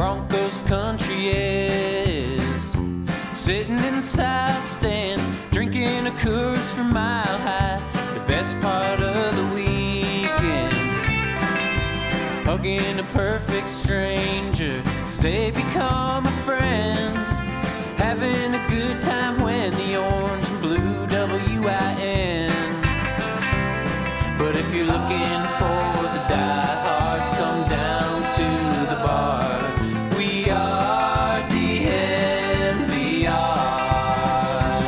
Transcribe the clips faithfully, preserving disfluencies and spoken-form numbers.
Broncos country is. Sitting in the south stands, drinking a Coors from Mile High. The best part of the weekend, hugging a perfect stranger as they become a friend. Having a good time when the orange and blue W I N. But if you're looking for the diehards, come down to the bar. We are D N V R.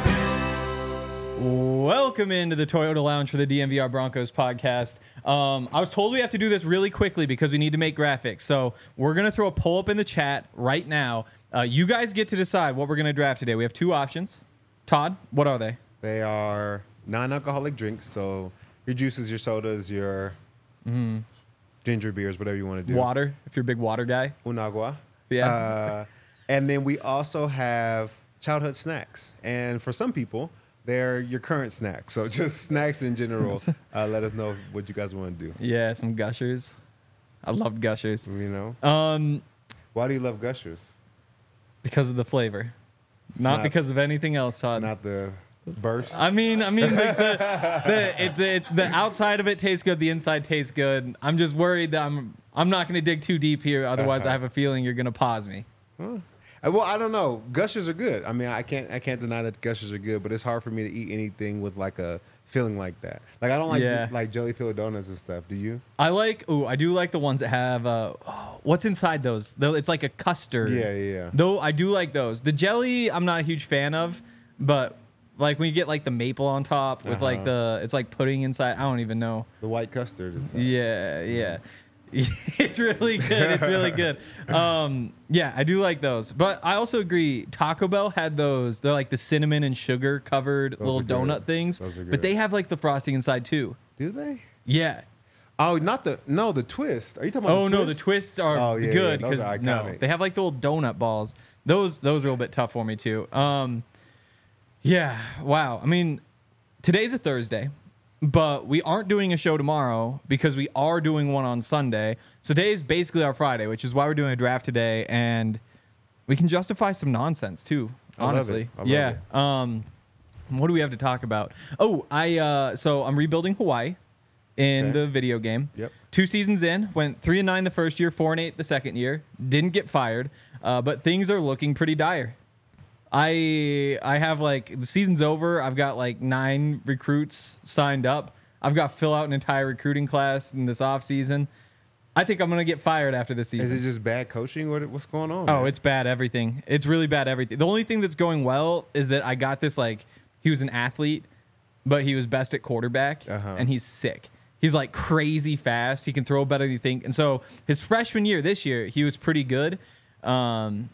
Welcome into the Toyota Lounge for the D N V R Broncos podcast. Um, I was told we have to do this really quickly because we need to make graphics. So we're going to throw a poll up in the chat right now. Uh, you guys get to decide what we're going to draft today. We have two options. Todd, what are they? They are non-alcoholic drinks, so your juices, your sodas, your mm. ginger beers, whatever you want to do. Water, if you're a big water guy. Un agua. Yeah. Uh, and then we also have childhood snacks. And for some people, they're your current snacks. So just snacks in general. Uh, let us know what you guys want to do. Yeah, some Gushers. I love Gushers. You know? Um, Why do you love Gushers? Because of the flavor. Not, not because of anything else, Todd. It's not the burst. I mean, I mean, like the the, it, the the outside of it tastes good, the inside tastes good. I'm just worried that I'm I'm not going to dig too deep here. Otherwise, uh-huh. I have a feeling you're going to pause me. Huh. Well, I don't know. Gushers are good. I mean, I can't I can't deny that Gushers are good, but it's hard for me to eat anything with like a feeling like that. Like I don't like yeah. like jelly filled donuts and stuff. Do you? I like. Ooh, I do like the ones that have. Uh, oh, what's inside those? Though it's like a custard. Yeah, yeah, yeah. Though I do like those. The jelly, I'm not a huge fan of, but like when you get like the maple on top with uh-huh. like the, it's like pudding inside. I don't even know. The white custard inside. Yeah, yeah. It's really good. It's really good. Um, yeah, I do like those. But I also agree. Taco Bell had those. They're like the cinnamon and sugar covered those little donut good. things. Those are good. But they have like the frosting inside too. Do they? Yeah. Oh, not the no the twist. Are you talking about? Oh the no, twist? the twists are oh, yeah, good because yeah, no, they have like the little donut balls. Those those are a little bit tough for me too. Um, yeah. Wow. I mean, today's a Thursday. But we aren't doing a show tomorrow because we are doing one on Sunday. So today is basically our Friday, which is why we're doing a draft today, and we can justify some nonsense too. Honestly, I love it. I love yeah. it. Um, what do we have to talk about? Oh, I uh, so I'm rebuilding Hawaii in okay. the video game. Yep. Two seasons in, went three and nine the first year, four and eight the second year. Didn't get fired, uh, but things are looking pretty dire. I I have like the season's over. I've got like nine recruits signed up. I've got to fill out an entire recruiting class in this off season. I think I'm gonna get fired after this season. Is it just bad coaching? What what's going on? Oh, man? It's bad everything. It's really bad everything. The only thing that's going well is that I got this like he was an athlete, but he was best at quarterback, uh-huh. and he's sick. He's like crazy fast. He can throw better than you think. And so his freshman year, this year, he was pretty good. Um,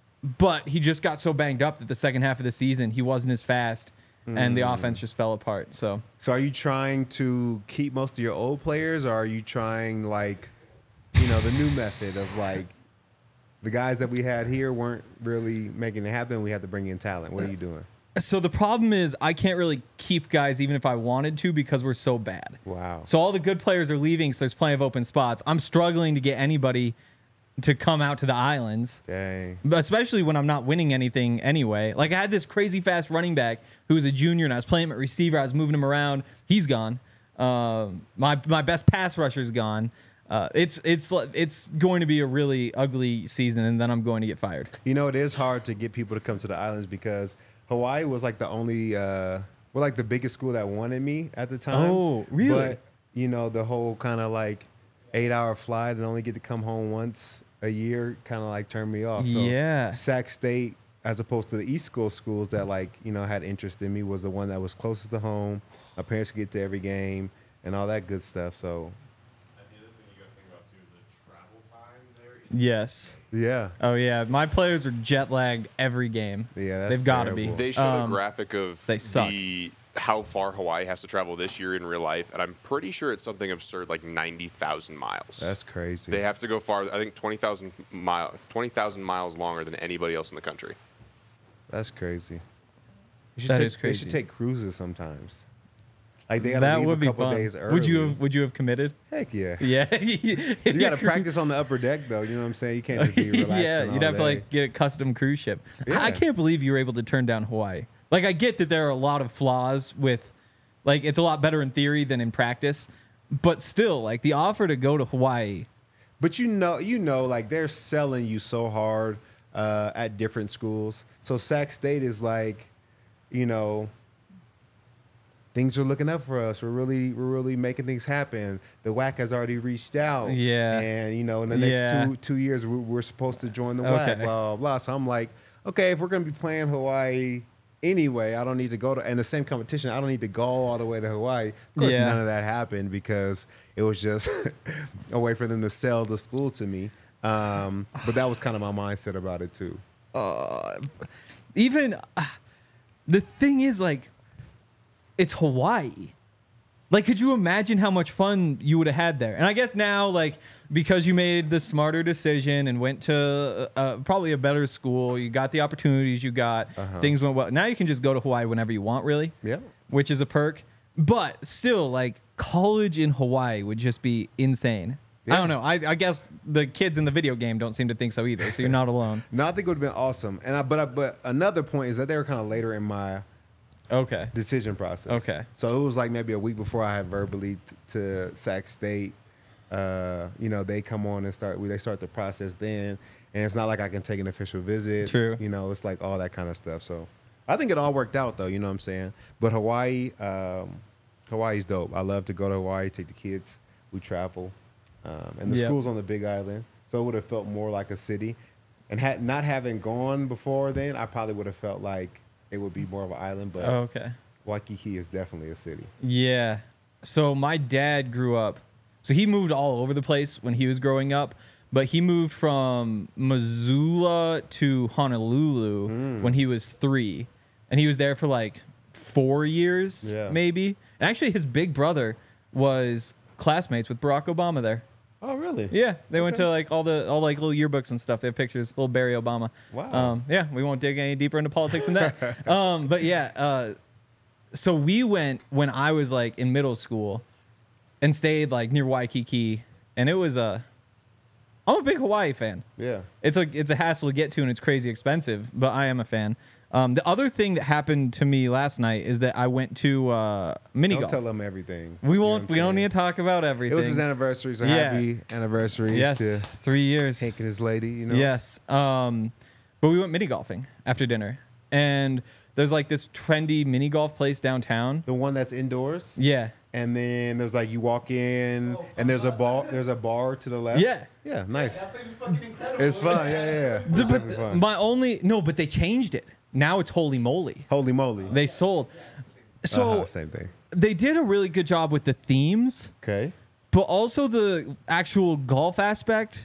But he just got so banged up that the second half of the season, he wasn't as fast, mm. and the offense just fell apart. So, so are you trying to keep most of your old players, or are you trying, like, you know, the new method of, like, the guys that we had here weren't really making it happen, we had to bring in talent? What are you doing? So the problem is I can't really keep guys even if I wanted to because we're so bad. Wow. So all the good players are leaving, so there's plenty of open spots. I'm struggling to get anybody to come out to the islands. Dang. Especially when I'm not winning anything anyway. Like I had this crazy fast running back who was a junior and I was playing him at receiver. I was moving him around. He's gone. Uh, my my best pass rusher's gone. Uh, it's it's it's going to be a really ugly season, and then I'm going to get fired. You know, it is hard to get people to come to the islands because Hawaii was like the only, uh, well, like the biggest school that wanted me at the time. Oh, really? But, you know, the whole kind of like eight-hour flight and only get to come home once a year kind of like turned me off. So yeah. Sac State, as opposed to the East Coast schools that like, you know, had interest in me, was the one that was closest to home. My parents could get to every game and all that good stuff. So. And the other thing you got to think about too, the travel time there is Yes. Yeah. Oh yeah, my players are jet lagged every game. Yeah, that's they've got to be. They showed um, a graphic of they suck. the how far Hawaii has to travel this year in real life, and I'm pretty sure it's something absurd, like ninety thousand miles. That's crazy. They have to go far. I think twenty thousand miles, twenty thousand miles longer than anybody else in the country. That's crazy. You should That take, is crazy. They should take cruises sometimes. Like they got to That leave would a be couple fun. days early. Would you have Would you have committed? Heck yeah. Yeah. You got to practice on the upper deck though. You know what I'm saying? You can't just be relaxing. Yeah, all you'd have to day. like get a custom cruise ship. Yeah. I can't believe you were able to turn down Hawaii. Like I get that there are a lot of flaws with, like it's a lot better in theory than in practice, but still, like the offer to go to Hawaii. But you know, you know, like they're selling you so hard uh, at different schools. So Sac State is like, you know, things are looking up for us. We're really, we're really making things happen. The W A C has already reached out. Yeah. And you know, in the next Yeah. two two years, we're, we're supposed to join the W A C. Okay. Blah blah blah. So I'm like, okay, if we're gonna be playing Hawaii anyway, I don't need to go to and the same competition. I don't need to go all the way to Hawaii. Of course, Yeah. none of that happened because it was just a way for them to sell the school to me. Um, but that was kind of my mindset about it too. Even uh, the thing is, like, it's Hawaii. Like, could you imagine how much fun you would have had there? And I guess now, like, because you made the smarter decision and went to uh, probably a better school, you got the opportunities you got, Uh-huh. things went well. Now you can just go to Hawaii whenever you want, really. Yeah. Which is a perk. But still, like, college in Hawaii would just be insane. I Yeah. don't know. I, I guess the kids in the video game don't seem to think so either. So you're not alone. No, I think it would have been awesome. And I, but I, but another point is that they were kind of later in my Okay. decision process. Okay. So it was like maybe a week before I had verbally t- to Sac State. Uh, you know, they come on and start. They start the process then, and it's not like I can take an official visit. True. You know, it's like all that kind of stuff. So I think it all worked out though. You know what I'm saying? But Hawaii, um, Hawaii's dope. I love to go to Hawaii, take the kids. We travel, um, and the Yep. school's on the Big Island, so it would have felt more like a city. And had not having gone before then, I probably would have felt like it would be more of an island. But Oh, okay. Waikiki is definitely a city. Yeah. So my dad grew up. So he moved all over the place when he was growing up, but he moved from Missoula to Honolulu when he was three, and he was there for like four years, Yeah. maybe. And actually, his big brother was classmates with Barack Obama there. Oh, really? Yeah, they went Okay. to like all the all like little yearbooks and stuff. They have pictures, little Barry Obama. Wow. Um, yeah, we won't dig any deeper into politics than that. um, but yeah, uh, so we went when I was like in middle school, and stayed like near Waikiki, and it was a. I'm a big Hawaii fan. Yeah. It's a it's a hassle to get to, and it's crazy expensive, but I am a fan. Um, the other thing that happened to me last night is that I went to uh, mini Don't golf. tell them everything. We You know won't. what We I'm don't saying? need to talk about everything. It was his anniversary, so Yeah. happy anniversary Yes, to three years. Hank and his lady. You know. Yes. Um, but we went mini golfing after dinner, and there's like this trendy mini golf place downtown. The one that's indoors. Yeah. And then there's like you walk in, and there's a bar. There's a bar to the left. Yeah. Yeah. Nice. It's fun. Yeah, yeah. yeah. It's The- definitely but fun. my only no, but they changed it. Now it's Holy Moly. Holy moly. They sold. So Uh-huh, same thing. they did a really good job with the themes, Okay. but also the actual golf aspect.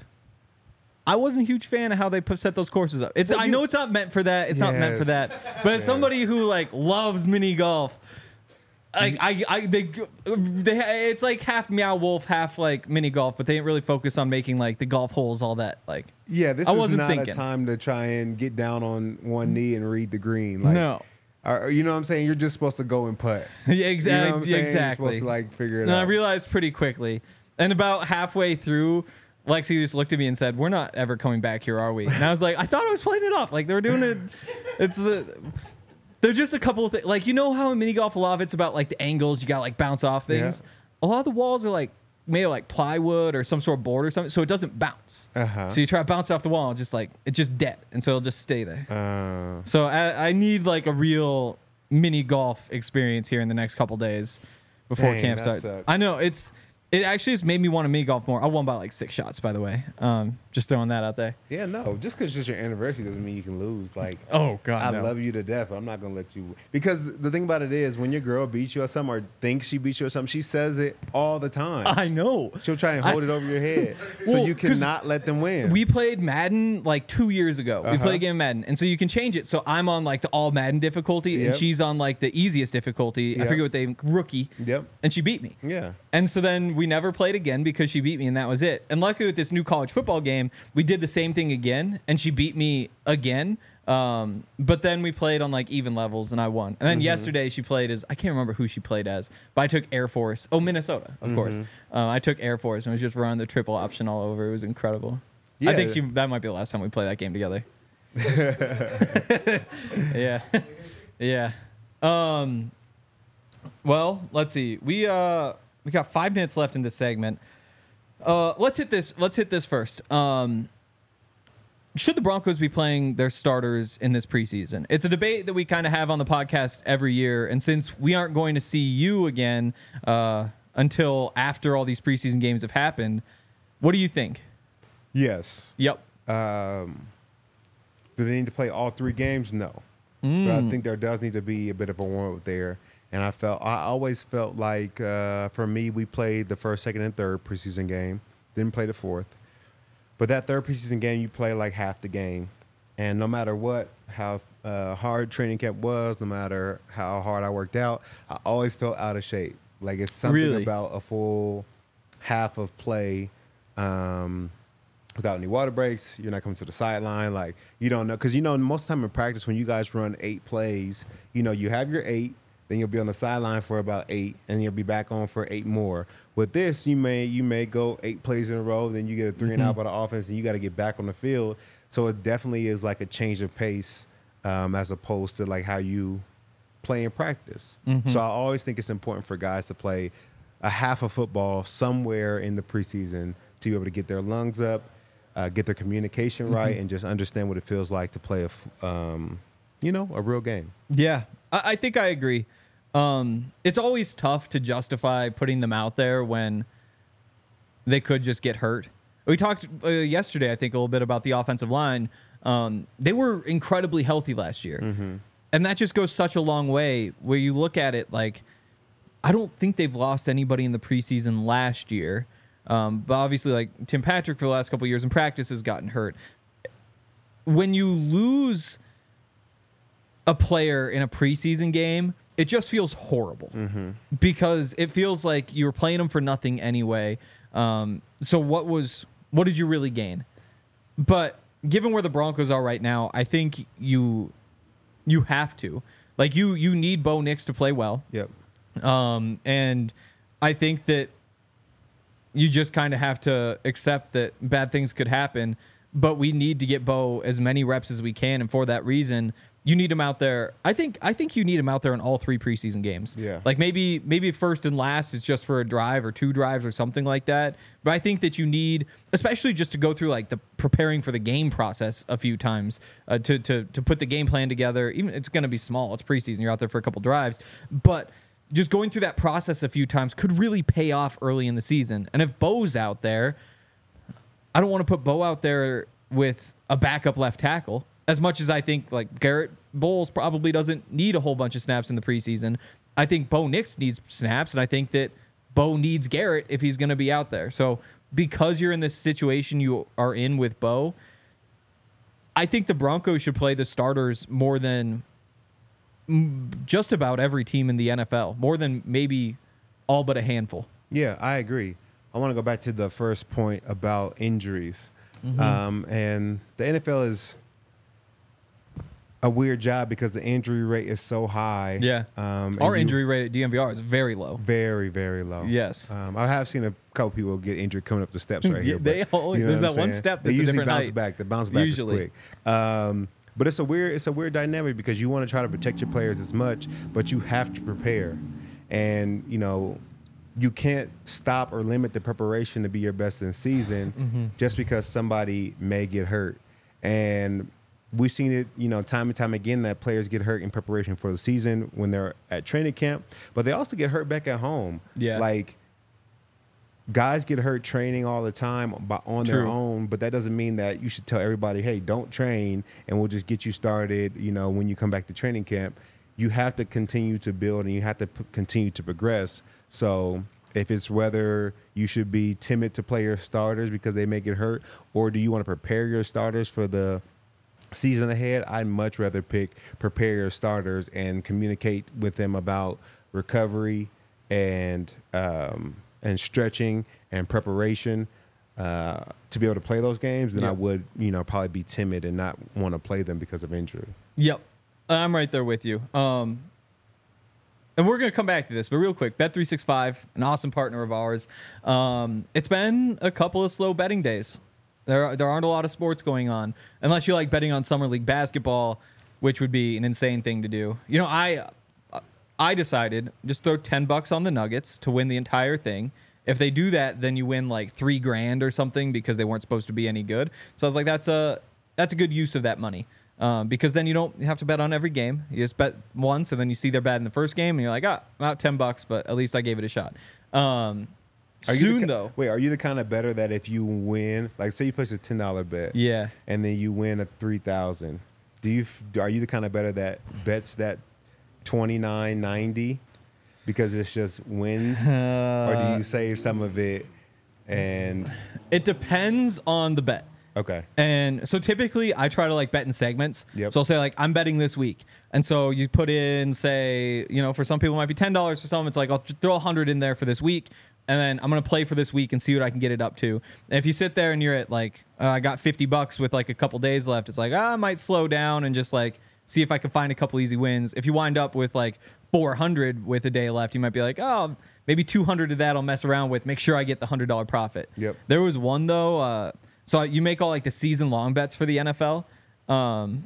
I wasn't a huge fan of how they put, set those courses up. It's Well, I you- know it's not meant for that. It's not meant for Yes. that. But as somebody who like loves mini golf, like I, I they they it's like half Meow Wolf, half like mini golf, but they didn't really focus on making like the golf holes all that like. Yeah, this I is wasn't not thinking. a time to try and get down on one knee and read the green. Like, No. or- you know what I'm saying? You're just supposed to go and putt. Yeah, You know exactly. what I'm saying? Exactly. You're supposed to like figure it And I out. realized pretty quickly. And about halfway through, Lexi just looked at me and said, "We're not ever coming back here, are we?" And I was like, "I thought I was playing it off. Like they were doing it. It's the. There's just a couple of things. Like you know how in mini golf a lot of it's about like the angles. You got to like bounce off things. A lot of the walls are like made of like plywood or some sort of board or something, so it doesn't bounce. Uh-huh. So you try to bounce off the wall, and just like it's just dead, and so it'll just stay there. Uh, So I, I need like a real mini golf experience here in the next couple days before Dang, camp that starts. sucks. I know it's it actually has made me want to mini golf more. I won by like six shots, by the way. Um, just throwing that out there. yeah, no. Just because it's just your anniversary doesn't mean you can lose. Like, Oh God, I no. love you to death, but I'm not gonna let you. Because the thing about it is, when your girl beats you or something, or thinks she beats you or something, she says it all the time. I know. She'll try and hold it over your head, so Well, you 'cause cannot let them win. We played Madden like two years ago. We Uh-huh. played a game of Madden, and so you can change it. So I'm on like the all Madden difficulty, Yep. and she's on like the easiest difficulty. I Yep. forget what they rookie. Yep. And she beat me. Yeah. And so then we never played again because she beat me, and that was it. And luckily with this new college football game, we did the same thing again, and she beat me again. Um, but then we played on like even levels and I won. And then Mm-hmm. yesterday she played as, I can't remember who she played as, but I took Air Force. Oh, Minnesota, of Mm-hmm. course. Uh, I took Air Force and was just running the triple option all over. It was incredible. Yeah. I think she, that might be the last time we play that game together. yeah. yeah. Um, well, let's see. We, uh, we got five minutes left in this segment. Uh, let's hit this. Let's hit this first. Um, should the Broncos be playing their starters in this preseason? It's a debate that we kind of have on the podcast every year. And since we aren't going to see you again uh, until after all these preseason games have happened, what do you think? Yes. Yep. Um, do they need to play all three games? No. But I think there does need to be a bit of a warm-up there. And I felt I always felt like uh, for me, we played the first, second, and third preseason game. Didn't play the fourth. But that third preseason game, you play like half the game. And no matter what, how uh, hard training camp was, no matter how hard I worked out, I always felt out of shape. Like it's something Really? about a full half of play um, without any water breaks. You're not coming to the sideline. Like you don't know. Because, you know, most of the time in practice when you guys run eight plays, you know, you have your eight. Then you'll be on the sideline for about eight, and you'll be back on for eight more. With this, you may you may go eight plays in a row, then you get a three and out by the offense, and you got to get back on the field. So it definitely is like a change of pace um, as opposed to like how you play in practice. So I always think it's important for guys to play a half of football somewhere in the preseason to be able to get their lungs up, uh, get their communication right, and just understand what it feels like to play a f- um, you know a real game. Yeah, I, I think I agree. Um, it's always tough to justify putting them out there when they could just get hurt. We talked uh, yesterday, I think, a little bit about the offensive line. Um, they were incredibly healthy last year. And that just goes such a long way where you look at it like, I don't think they've lost anybody in the preseason last year. Um, but obviously, like Tim Patrick for the last couple of years in practice has gotten hurt. When you lose a player in a preseason game, it just feels horrible because it feels like you were playing them for nothing anyway. Um, so what was what did you really gain? But given where the Broncos are right now, I think you you have to like you you need Bo Nix to play well. Yep. Um, and I think that you just kind of have to accept that bad things could happen, but we need to get Bo as many reps as we can. And for that reason, you need him out there. I think I think you need him out there in all three preseason games. Yeah. Like maybe maybe first and last it's just for a drive or two drives or something like that. But I think that you need, especially just to go through like the preparing for the game process a few times uh, to to to put the game plan together. Even it's going to be small. It's preseason. You're out there for a couple drives, but just going through that process a few times could really pay off early in the season. And if Bo's out there, I don't want to put Bo out there with a backup left tackle. As much as I think like Garrett Bowles probably doesn't need a whole bunch of snaps in the preseason, I think Bo Nix needs snaps, and I think that Bo needs Garrett if he's going to be out there. So because you're in this situation you are in with Bo, I think the Broncos should play the starters more than just about every team in the N F L, more than maybe all but a handful. Yeah, I agree. I want to go back to the first point about injuries. Um, and the N F L is a weird job because the injury rate is so high. Yeah. Um, and Our you- injury rate at D M V R is very low. Very, very low. Yes. Um, I have seen a couple people get injured coming up the steps right Yeah, here. they but, always- there's what that I'm one saying? step They that's a usually different bounce height. back. The bounce back Usually. is quick. Um, but it's a weird, it's a weird dynamic because you want to try to protect your players as much, but you have to prepare. And, you know, you can't stop or limit the preparation to be your best in season Mm-hmm. just because somebody may get hurt. And we've seen it, you know, time and time again that players get hurt in preparation for the season when they're at training camp, but they also get hurt back at home. Yeah. Like guys get hurt training all the time by, on their True. own, but that doesn't mean that you should tell everybody, hey, don't train and we'll just get you started, you know, when you come back to training camp. You have to continue to build and you have to p- continue to progress. So if it's whether you should be timid to play your starters because they may get hurt, or do you want to prepare your starters for the season ahead, I'd much rather pick prepare your starters and communicate with them about recovery and um, and stretching and preparation uh, to be able to play those games, then I Yep. would, you know, probably be timid and not want to play them because of injury. Yep. I'm right there with you. Um, and we're going to come back to this, but real quick, Bet three sixty-five, an awesome partner of ours. Um, it's been a couple of slow betting days. There, there aren't a lot of sports going on, unless you like betting on Summer League basketball, which would be an insane thing to do. You know, I, I decided just throw ten bucks on the Nuggets to win the entire thing. If they do that, then you win like three grand or something because they weren't supposed to be any good. So I was like, that's a that's a good use of that money. Um, because then you don't have to bet on every game. You just bet once, and then you see they're bad in the first game, and you're like, ah, I'm out ten bucks, but at least I gave it a shot. Um, Are you soon the, ki- though, Wait, are you the kind of better that if you win, like say you place a ten dollar bet, yeah, and then you win a three thousand, do you f- are you the kind of better that bets that twenty nine ninety because it's just wins, or do you save some of it and it depends on the bet. okay, And so typically I try to like bet in segments. Yep. So I'll say like I'm betting this week. And so you put in, say, you know, for some people it might be ten dollars. For some it's like I'll just throw a hundred in there for this week. And then I'm going to play for this week and see what I can get it up to. And if you sit there and you're at like, uh, I got fifty bucks with like a couple days left, it's like, ah, I might slow down and just like see if I can find a couple easy wins. If you wind up with like four hundred with a day left, you might be like, oh, maybe two hundred of that I'll mess around with. Make sure I get the one hundred dollars profit. Yep. There was one though, uh, so you make all like the season long bets for the N F L, um,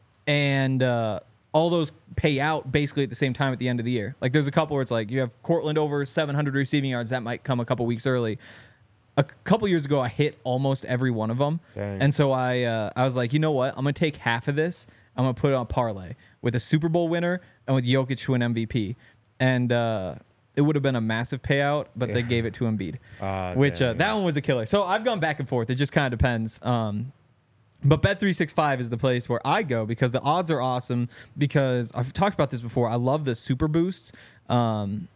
and uh, all those pay out basically at the same time at the end of the year. Like there's a couple where it's like you have Cortland over seven hundred receiving yards. That might come a couple weeks early. A couple years ago, I hit almost every one of them, Dang. and so I uh, I was like, you know what? I'm gonna take half of this. I'm gonna put it on a parlay with a Super Bowl winner and with Jokic to an M V P, and uh, it would have been a massive payout, but they Yeah. gave it to Embiid, Ah, which uh, dang. that one was a killer. So I've gone back and forth. It just kind of depends. Um, but Bet three sixty-five is the place where I go because the odds are awesome. Because I've talked about this before. I love the super boosts. Um,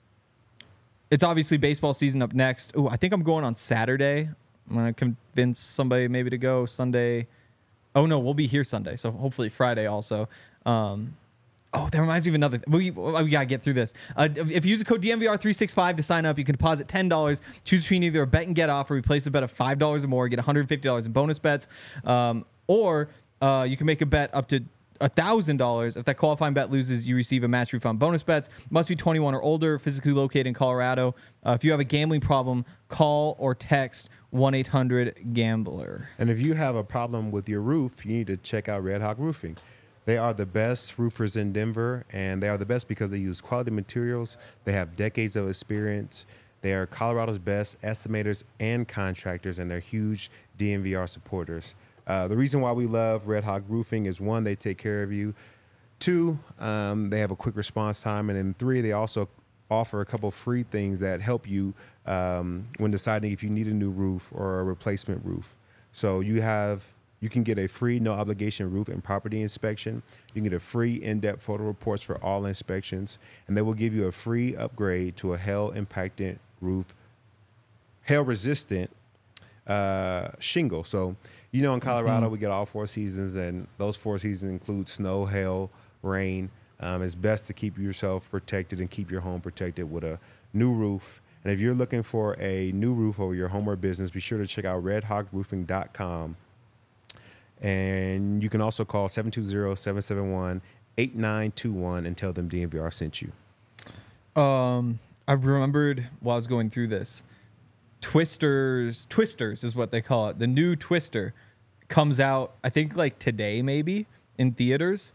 it's obviously baseball season up next. Ooh, I think I'm going on Saturday. I'm gonna convince somebody maybe to go Sunday. Oh no, we'll be here Sunday, so hopefully Friday also. Um, oh, that reminds me of another. Th- we we gotta get through this. Uh, if you use the code D M V R three sixty-five to sign up, you can deposit ten dollars. Choose between either a bet and get offer. We place a bet of five dollars or more, get one hundred fifty dollars in bonus bets, um, or uh, you can make a bet up to one thousand dollars. If that qualifying bet loses, you receive a match refund. Bonus bets must be twenty-one or older, physically located in Colorado. Uh, if you have a gambling problem, call or text one eight hundred gambler. And if you have a problem with your roof, you need to check out Red Hawk Roofing. They are the best roofers in Denver, and they are the best because they use quality materials. They have decades of experience. They are Colorado's best estimators and contractors, and they're huge D N V R supporters. Uh, the reason why we love Red Hawk Roofing is, one, they take care of you. Two, um, they have a quick response time. And then three, they also offer a couple free things that help you um, when deciding if you need a new roof or a replacement roof. So you have you can get a free no obligation roof and property inspection. You can get a free in-depth photo reports for all inspections, and they will give you a free upgrade to a hail impacted roof, hail resistant uh, shingle. So you know in Colorado we get all four seasons, and those four seasons include snow, hail, rain. Um, it's best to keep yourself protected and keep your home protected with a new roof. And if you're looking for a new roof over your home or business, be sure to check out red hawk roofing dot com. And you can also call seven two zero, seven seven one, eight nine two one and tell them D N V R sent you. Um, I remembered while I was going through this. Twisters, Twisters is what they call it. The new Twister comes out, I think, like today, maybe in theaters.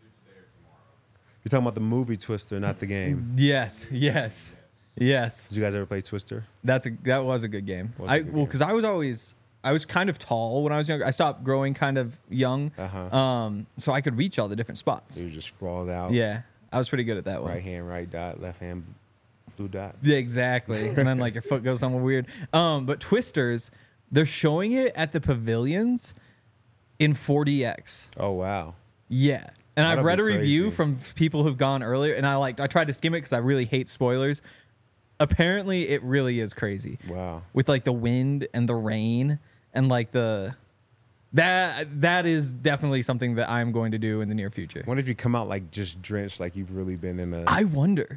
You're talking about the movie Twister, not the game. Yes, yes, yes. Did you guys ever play Twister? That's a that was a good game. Was a I good well, game. because I was always I was kind of tall when I was younger. I stopped growing kind of young, Uh-huh. um, so I could reach all the different spots. So you just sprawled out. Yeah, I was pretty good at that one. Right hand, right dot, left hand, blue dot. Yeah, exactly. And then like your foot goes somewhere weird. Um, but Twisters, they're showing it at the pavilions in four D X. Oh, wow. Yeah. And I've That'll read a be review crazy. from people who've gone earlier, and I like I tried to skim it because I really hate spoilers. Apparently, it really is crazy. Wow. With like the wind and the rain and like the that that is definitely something that I'm going to do in the near future. What if you come out like just drenched, like you've really been in a. I wonder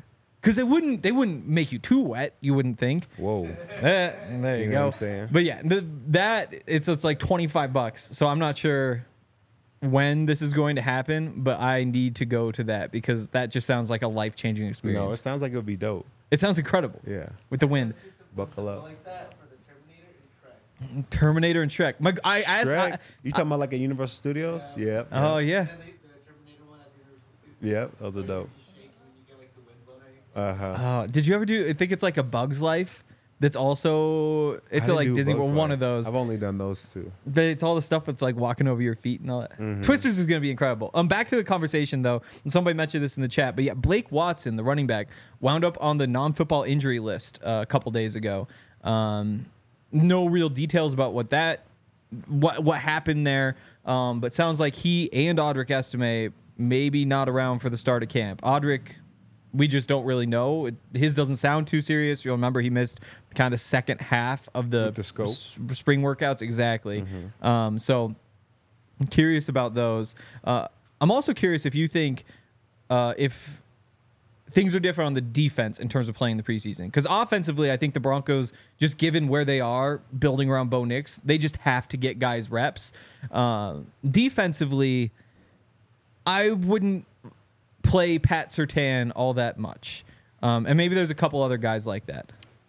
Because they wouldn't they wouldn't make you too wet. You wouldn't think. Whoa. Eh, there you, You know go. what I'm saying? But yeah, the, that it's it's like twenty-five bucks. So I'm not sure when this is going to happen, but I need to go to that because that just sounds like a life changing experience. No, it sounds like it would be dope. It sounds incredible. Yeah. With the wind. Buckle up. Like that for the Terminator and Shrek. Terminator and Shrek. My, I asked. Shrek? I, You talking about like at Universal Studios? Yep. oh yeah. And then the, the Terminator one at the Universal too. Yep. Those are dope. You shake when you get like the wind blowing. Uh huh. Uh, did you ever do? I think it's like a Bug's Life. That's also it's a, like Disney World. One of those. I've only done those two. But it's all the stuff that's like walking over your feet and all that. Mm-hmm. Twisters is going to be incredible. Um, back to the conversation though. And somebody mentioned this in the chat, but yeah, Blake Watson, the running back, wound up on the non-football injury list uh, a couple days ago. Um, no real details about what that, what what happened there. Um, but sounds like he and Audric Estime maybe not around for the start of camp. Audric, we just don't really know. It, his doesn't sound too serious. You'll remember he missed kind of second half of the, With the scope. s- spring workouts. Exactly. Mm-hmm. Um, so I'm curious about those. Uh, I'm also curious if you think uh, if things are different on the defense in terms of playing the preseason. Because offensively, I think the Broncos, just given where they are, building around Bo Nix, they just have to get guys reps. Uh, defensively, I wouldn't play Pat Surtain all that much. Um, and maybe there's a couple other guys like that.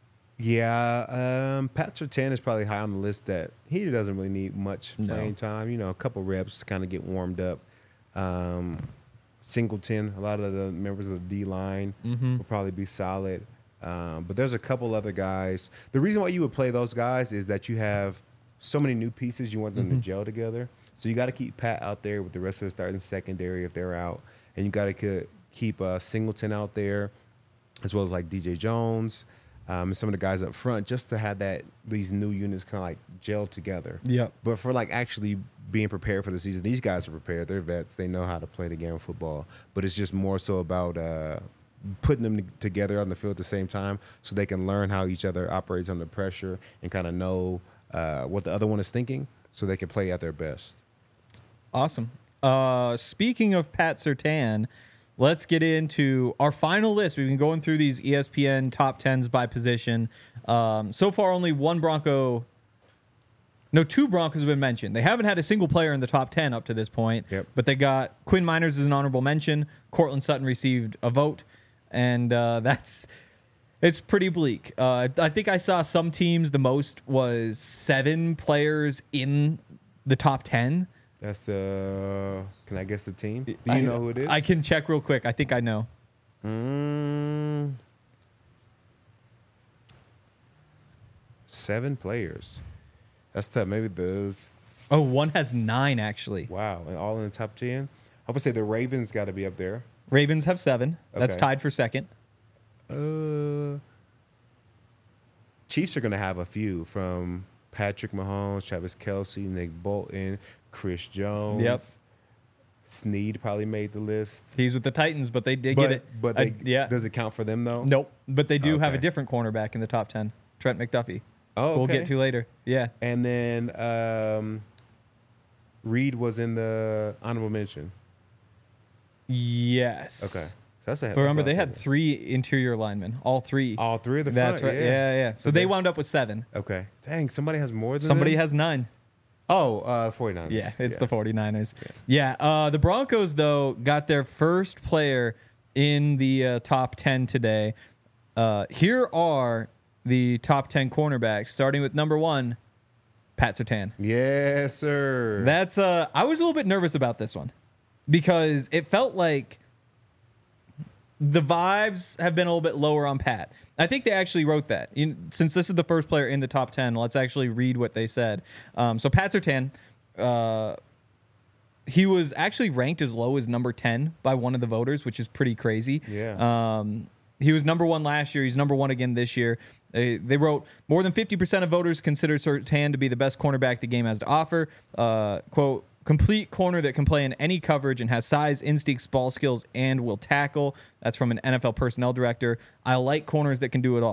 Yeah, um, Pat Surtain is probably high on the list that he doesn't really need much No. playing time. You know, a couple reps to kind of get warmed up. Um, Singleton, a lot of the members of the D line Mm-hmm. will probably be solid. Um, but there's a couple other guys. The reason why you would play those guys is that you have so many new pieces. You want them Mm-hmm. to gel together. So you got to keep Pat out there with the rest of the starting secondary if they're out, and you got to keep uh, Singleton out there, as well as like D J Jones. Um, and some of the guys up front, just to have that these new units kind of like gel together. Yep. But for like actually being prepared for the season, these guys are prepared. They're vets. They know how to play the game of football. But it's just more so about uh, putting them together on the field at the same time, so they can learn how each other operates under pressure and kind of know uh, what the other one is thinking, so they can play at their best. Awesome. Uh, speaking of Pat Surtain, let's get into our final list. We've been going through these E S P N top tens by position. Um, so far, only one Bronco, no, two Broncos have been mentioned. They haven't had a single player in the top ten up to this point. Yep. But they got Quinn Miners as an honorable mention. Cortland Sutton received a vote, and uh, that's it's pretty bleak. Uh, I think I saw some teams the most was seven players in the top ten. That's the. Can I guess the team? Do you I, know who it is? I can check real quick. I think I know. Mm, seven players. That's tough. Maybe the. Oh, one has nine actually. Wow, and all in the top ten. I would say the Ravens got to be up there. Ravens have seven. That's Okay. tied for second. Uh, Chiefs are going to have a few from Patrick Mahomes, Travis Kelce, Nick Bolton, Chris Jones. Yep. Snead probably made the list. He's with the Titans, but they did but get it. but I- they, yeah. does it count for them though? Nope. But they do have a Okay. different cornerback in the top ten. Trent McDuffie. Oh, We'll okay. get to later. Yeah. And then um, Reed was in the honorable mention. Yes. Okay, so that's a. But remember, that's a- they had three interior linemen. All three. all three of the That's front. right. Yeah, yeah. So, So they they- wound up with seven. Okay. Dang, somebody has more than Somebody them? has nine. Oh, uh, forty-niners. Yeah, it's the 49ers. Yeah, uh, the Broncos, though, got their first player in the uh, top ten today. Uh, here are the top ten cornerbacks, starting with number one, Pat Surtain. Yes, sir. That's uh, I was a little bit nervous about this one because it felt like the vibes have been a little bit lower on Pat. I think they actually wrote that. In, since this is the first player in the top ten, let's actually read what they said. Um, so Pat Surtain, uh, he was actually ranked as low as number ten by one of the voters, which is pretty crazy. Yeah. Um, he was number one last year. He's number one again this year. They, they wrote, more than fifty percent of voters consider Surtain to be the best cornerback the game has to offer. Uh, quote, complete corner that can play in any coverage and has size, instincts, ball skills, and will tackle. That's from an N F L personnel director. I like corners that can do it all.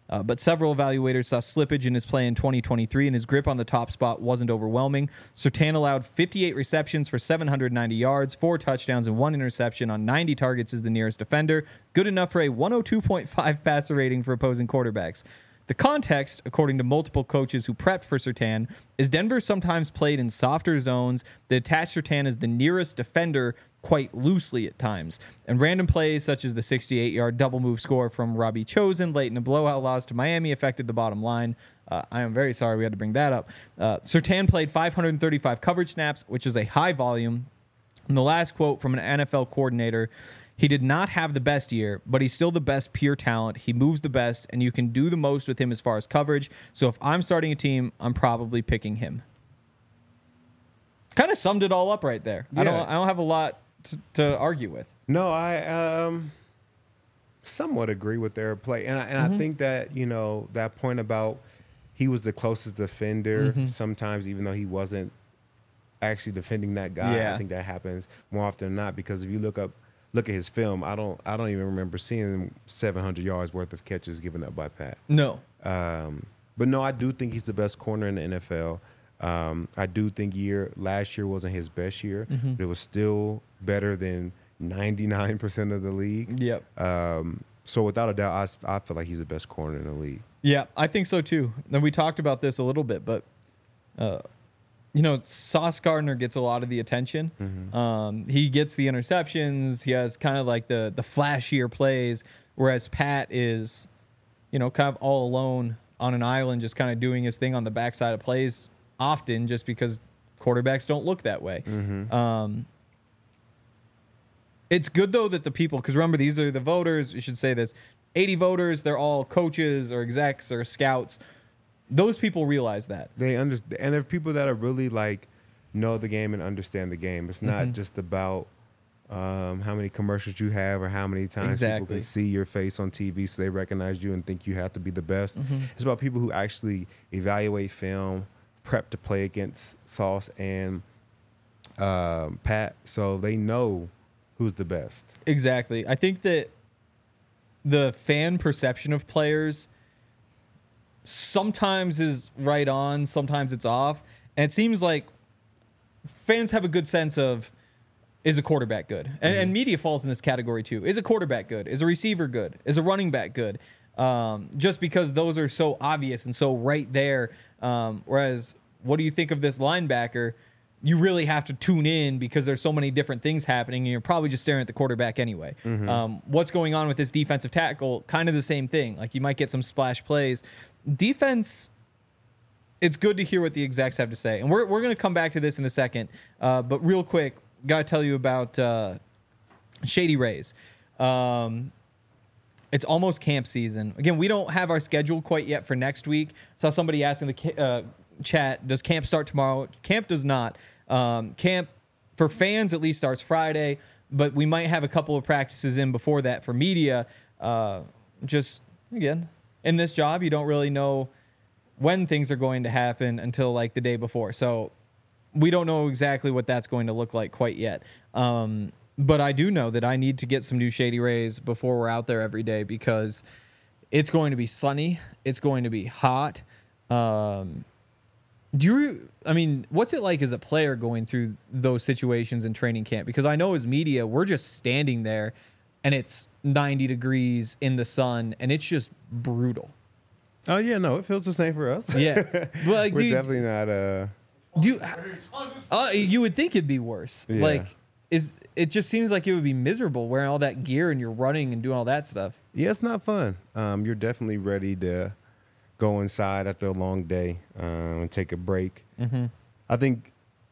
Uh, but several evaluators saw slippage in his play in twenty twenty-three, and his grip on the top spot wasn't overwhelming. Surtain allowed fifty-eight receptions for seven hundred ninety yards, four touchdowns, and one interception on ninety targets as the nearest defender. Good enough for a one oh two point five passer rating for opposing quarterbacks. The context, according to multiple coaches who prepped for Surtain, is Denver sometimes played in softer zones that attach Surtain as the nearest defender quite loosely at times. And random plays such as the sixty-eight-yard double move score from Robbie Chosen late in a blowout loss to Miami affected the bottom line. Uh, I am very sorry we had to bring that up. Uh, Surtain played five hundred thirty-five coverage snaps, which is a high volume. And the last quote from an N F L coordinator: "He did not have the best year, but he's still the best pure talent. He moves the best, and you can do the most with him as far as coverage. So if I'm starting a team, I'm probably picking him." Kind of summed it all up right there. Yeah. I don't. I don't have a lot to, to argue with. No, I um, somewhat agree with their play, and I, and Mm-hmm. I think that you know that point about he was the closest defender. Mm-hmm. Sometimes, even though he wasn't actually defending that guy, Yeah. I think that happens more often than not. Because if you look up, look at his film, I don't, I don't even remember seeing seven hundred yards worth of catches given up by Pat. No. Um, but no, I do think he's the best corner in the N F L. Um, I do think year last year wasn't his best year, Mm-hmm. but it was still better than ninety-nine percent of the league. Yep. Um, so without a doubt, I, s- I feel like he's the best corner in the league. Yeah, I think so too. And we talked about this a little bit, but uh, you know, Sauce Gardner gets a lot of the attention. Um, he gets the interceptions. He has kind of like the the flashier plays, whereas Pat is, you know, kind of all alone on an island, just kind of doing his thing on the backside of plays often, just because quarterbacks don't look that way. Um, it's good though that the people, because remember, these are the voters. We should say this: eighty voters. They're all coaches or execs or scouts. Those people realize that. They understand, and there are people that are really like know the game and understand the game. It's not Mm-hmm. just about um, how many commercials you have or how many times Exactly. people can see your face on T V, so they recognize you and think you have to be the best. Mm-hmm. It's about people who actually evaluate film, prep to play against Sauce and um, Pat, so they know who's the best. Exactly. I think that the fan perception of players sometimes is right on, sometimes it's off. And it seems like fans have a good sense of, is a quarterback good? And, and media falls in this category too. Is a quarterback good? Is a receiver good? Is a running back good? Um, just because those are so obvious and so right there. Um, whereas, what do you think of this linebacker? You really have to tune in because there's so many different things happening, and you're probably just staring at the quarterback anyway. Um, what's going on with this defensive tackle? Kind of the same thing. Like, you might get some splash plays. Defense, it's good to hear what the execs have to say. And we're, we're going to come back to this in a second. Uh, but real quick, got to tell you about uh, Shady Rays. Um, it's almost camp season. Again, we don't have our schedule quite yet for next week. Saw somebody asking the ca- uh, chat, does camp start tomorrow? Camp does not. Um, camp, for fans, at least starts Friday, but we might have a couple of practices in before that for media. Uh, just, again, in this job, you don't really know when things are going to happen until like the day before. So we don't know exactly what that's going to look like quite yet. Um, but I do know that I need to get some new Shady Rays before we're out there every day, because it's going to be sunny. It's going to be hot. Um, do you, I mean, what's it like as a player going through those situations in training camp? Because I know as media, we're just standing there and it's ninety degrees in the sun and it's just brutal. Oh yeah, no, it feels the same for us. Yeah. But like, We're do you, definitely not. Uh, do you, uh, you would think it'd be worse. Yeah. Like, is it just seems like it would be miserable wearing all that gear and you're running and doing all that stuff. Yeah, it's not fun. Um, you're definitely ready to go inside after a long day um, and take a break. Mm-hmm. I think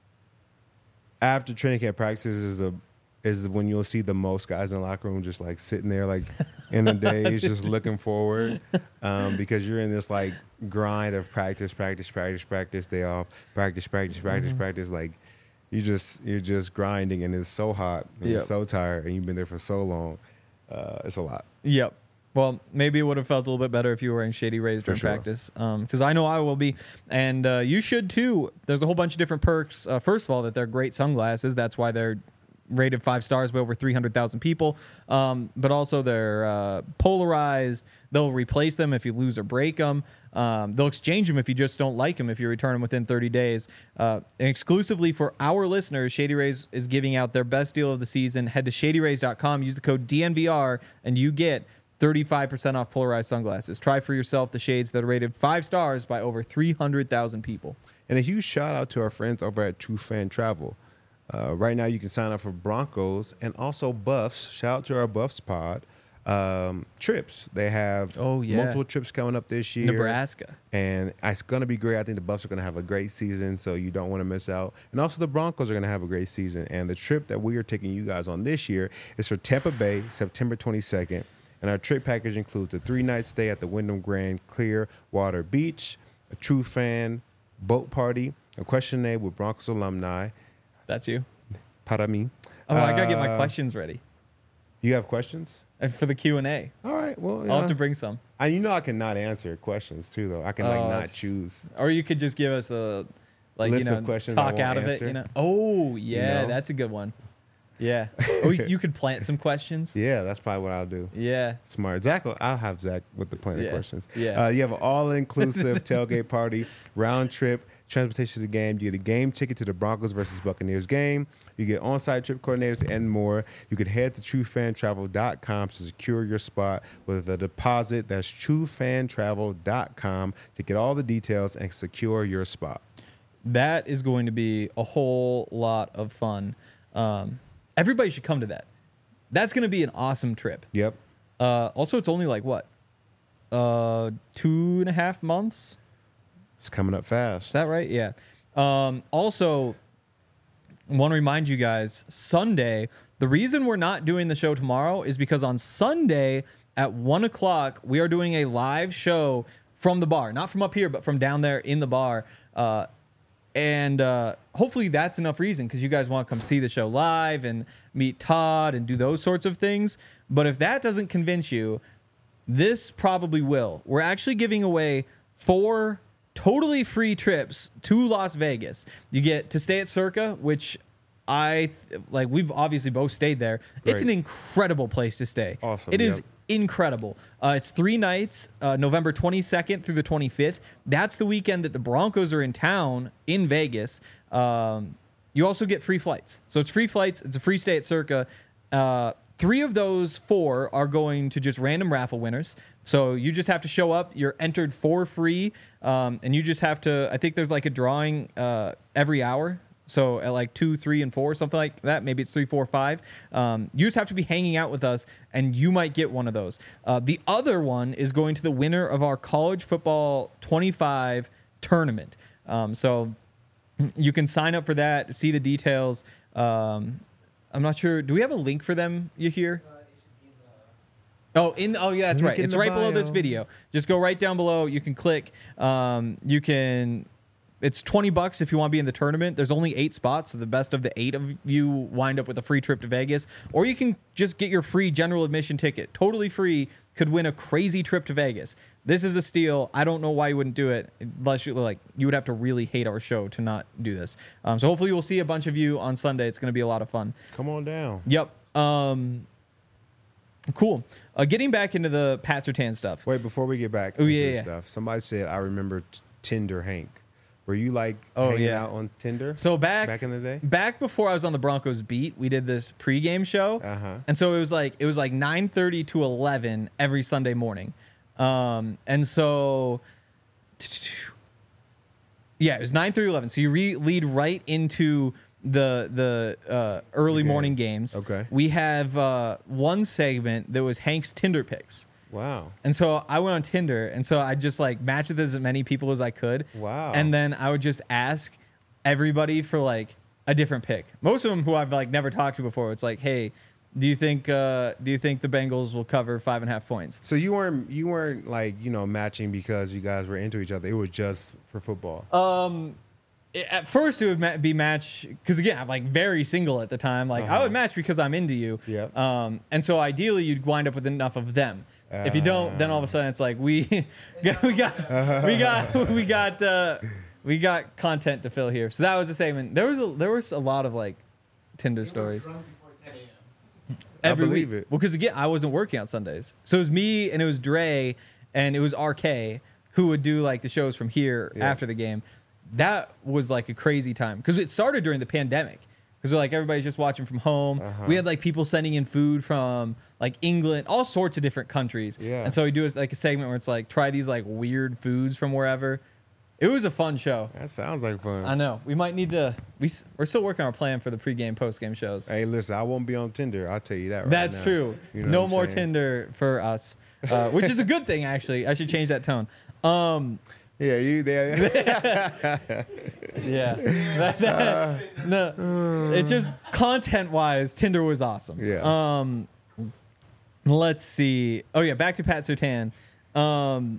after training camp practices is the is when you'll see the most guys in the locker room just like sitting there like in the days just looking forward um, because you're in this like grind of practice, practice, practice, practice, day off, practice, practice, practice, Mm-hmm. practice. Like you just you're just grinding and it's so hot and you're Yep. so tired and you've been there for so long. Uh, it's a lot. Yep. Well, maybe it would have felt a little bit better if you were wearing Shady Rays during sure. practice, because I know I will be, and uh, you should too. There's a whole bunch of different perks. Uh, first of all, that they're great sunglasses. That's why they're rated five stars by over three hundred thousand people. Um, but also they're uh, polarized. They'll replace them if you lose or break them. Um, they'll exchange them if you just don't like them if you return them within thirty days. Uh, and exclusively for our listeners, Shady Rays is giving out their best deal of the season. Head to shady rays dot com, use the code D N V R, and you get thirty-five percent off polarized sunglasses. Try for yourself the shades that are rated five stars by over three hundred thousand people. And a huge shout out to our friends over at True Fan Travel. Uh, right now, you can sign up for Broncos and also Buffs. Shout out to our Buffs pod. Um, trips. They have Oh, yeah. multiple trips coming up this year. Nebraska. And it's going to be great. I think the Buffs are going to have a great season, so you don't want to miss out. And also the Broncos are going to have a great season. And the trip that we are taking you guys on this year is for Tampa Bay, September twenty-second. And our trip package includes a three-night stay at the Wyndham Grand Clearwater Beach, a True Fan boat party, a questionnaire with Broncos alumni. That's you. Para mí. Oh, I got to get my Uh, questions ready. You have questions? And for the Q and A. All right. Well, I'll yeah. have to bring some. And you know I cannot answer questions too, though. I can like Oh, not that's- choose. Or you could just give us a, like, List you know, of questions I talk won't out of it, answer. you know? Oh, yeah, know? that's a good one. Yeah. Oh, you you could plant some questions. Yeah, that's probably what I'll do. Yeah. Smart. Zach, will- I'll have Zach with the planning Yeah. questions. Yeah. Uh, you have an all-inclusive tailgate party, round trip, transportation to the game. You get a game ticket to the Broncos versus Buccaneers game. You get on-site trip coordinators and more. You can head to true fan travel dot com to secure your spot with a deposit. That's true fan travel dot com to get all the details and secure your spot. That is going to be a whole lot of fun. Um, everybody should come to that. That's going to be an awesome trip. Yep. Uh, also, it's only like what? Uh, two and a half months? It's coming up fast. Is that right? Yeah. Um, also, want to remind you guys, Sunday, the reason we're not doing the show tomorrow is because on Sunday at one o'clock, we are doing a live show from the bar. Not from up here, but from down there in the bar. Uh, and uh, hopefully that's enough reason because you guys want to come see the show live and meet Todd and do those sorts of things. But if that doesn't convince you, this probably will. We're actually giving away four totally free trips to Las Vegas. You get to stay at Circa, which I like. We've obviously both stayed there. It's an Great. incredible place to stay. Awesome, It is yep. incredible. Uh, it's three nights, uh, November twenty-second through the twenty-fifth. That's the weekend that the Broncos are in town in Vegas. Um, you also get free flights. So it's free flights. It's a free stay at Circa. Uh, three of those four are going to just random raffle winners. So you just have to show up. You're entered for free. Um, and you just have to, I think there's like a drawing uh, every hour. So at like two, three, and four, something like that. Maybe it's three, four, five. Um, you just have to be hanging out with us, and you might get one of those. Uh, the other one is going to the winner of our college football twenty-five tournament. Um, so you can sign up for that, see the details. Um, I'm not sure. Do we have a link for them? You hear? Oh, in oh yeah, that's Link right. in It's the right below this bio. video. Just go right down below. You can click. Um, you can. It's twenty bucks if you want to be in the tournament. There's only eight spots, so the best of the eight of you wind up with a free trip to Vegas. Or you can just get your free general admission ticket, totally free. Could win a crazy trip to Vegas. This is a steal. I don't know why you wouldn't do it, unless you like you would have to really hate our show to not do this. Um, so hopefully we'll see a bunch of you on Sunday. It's going to be a lot of fun. Come on down. Yep. Um, cool. Uh, getting back into the Pat Surtain stuff. Wait, before we get back Oh, into yeah, this yeah. stuff, somebody said, I remember t- Tinder Hank. Were you like Oh, hanging yeah. out on Tinder? So back Back in the day? back before I was on the Broncos beat, we did this pregame show, Uh-huh. and so it was like it was like nine thirty to eleven every Sunday morning, um, and so yeah, it was nine thirty to eleven. So you re- lead right into the the uh, early game. morning games. Okay. we have uh, one segment that was Hank's Tinder picks. Wow. And so I went on Tinder, and so I just like matched with as many people as I could. Wow. And then I would just ask everybody for like a different pick. Most of them who I've like never talked to before. It's like, hey, do you think uh, do you think the Bengals will cover five and a half points? So you weren't you weren't like, you know, matching because you guys were into each other. It was just for football. Um, it- at first it would ma- be match because again I'm like very single at the time. Like I Uh-huh. would match because I'm into you. Yep. Um, and so ideally you'd wind up with enough of them. If you don't, then all of a sudden it's like we we got we got we got uh, we got content to fill here. So that was the segment. There was a there was a lot of like Tinder They were stories. drunk before ten a.m. I Every believe week. it. Well, because again, I wasn't working on Sundays, so it was me and it was Dre and it was R K who would do like the shows from here Yeah. after the game. That was like a crazy time because it started during the pandemic. Because like everybody's just watching from home. Uh-huh. We had like people sending in food from like England, all sorts of different countries. Yeah. And so we do like a segment where it's like try these like weird foods from wherever. It was a fun show. That sounds like fun. I know. We might need to. We s- we're still working on our plan for the pregame, postgame shows. Hey, listen, I won't be on Tinder. I'll tell you that right That's now. true. You know no what I'm more saying? Tinder for us, uh, which is a good thing actually. I should change that tone. Um, Yeah, you there. yeah. That- that- no, it's just content wise, Tinder was awesome. Yeah. Um, let's see. Oh yeah, back to Pat Surtain. Um,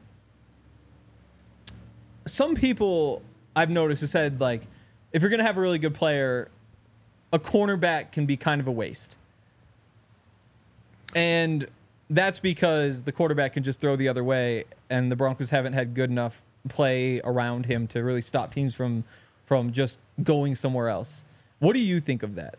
some people I've noticed have said like, if you're gonna have a really good player, a cornerback can be kind of a waste. And that's because the quarterback can just throw the other way, and the Broncos haven't had good enough play around him to really stop teams from from just going somewhere else. What do you think of that?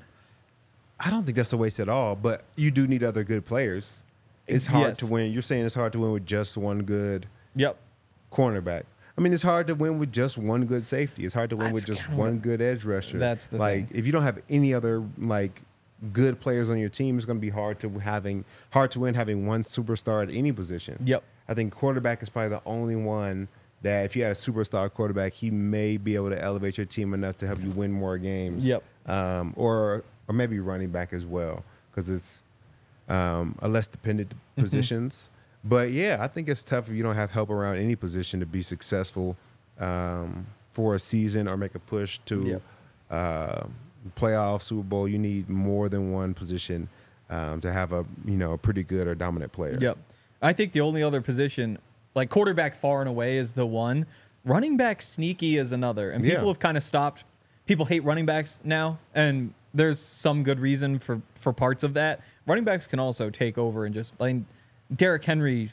I don't think that's a waste at all, but you do need other good players. It's hard Yes. to win. You're saying it's hard to win with just one good Yep. cornerback. I mean, it's hard to win with just one good safety. It's hard to win with That's just kinda one what- good edge rusher. That's the like thing. if you don't have any other like good players on your team, it's going to be hard to having hard to win having one superstar at any position. Yep. I think quarterback is probably the only one that if you had a superstar quarterback, he may be able to elevate your team enough to help you win more games. Yep. Um, or or maybe running back as well because it's um, a less dependent Mm-hmm. positions. But yeah, I think it's tough if you don't have help around any position to be successful um, for a season or make a push to Yep. uh, playoff, Super Bowl. You need more than one position um, to have a you know a pretty good or dominant player. Yep. I think the only other position, like quarterback far and away is the one. Running back sneaky is another. And people Yeah. have kind of stopped. People hate running backs now, and there's some good reason for, for parts of that. Running backs can also take over and just, like, Derrick Henry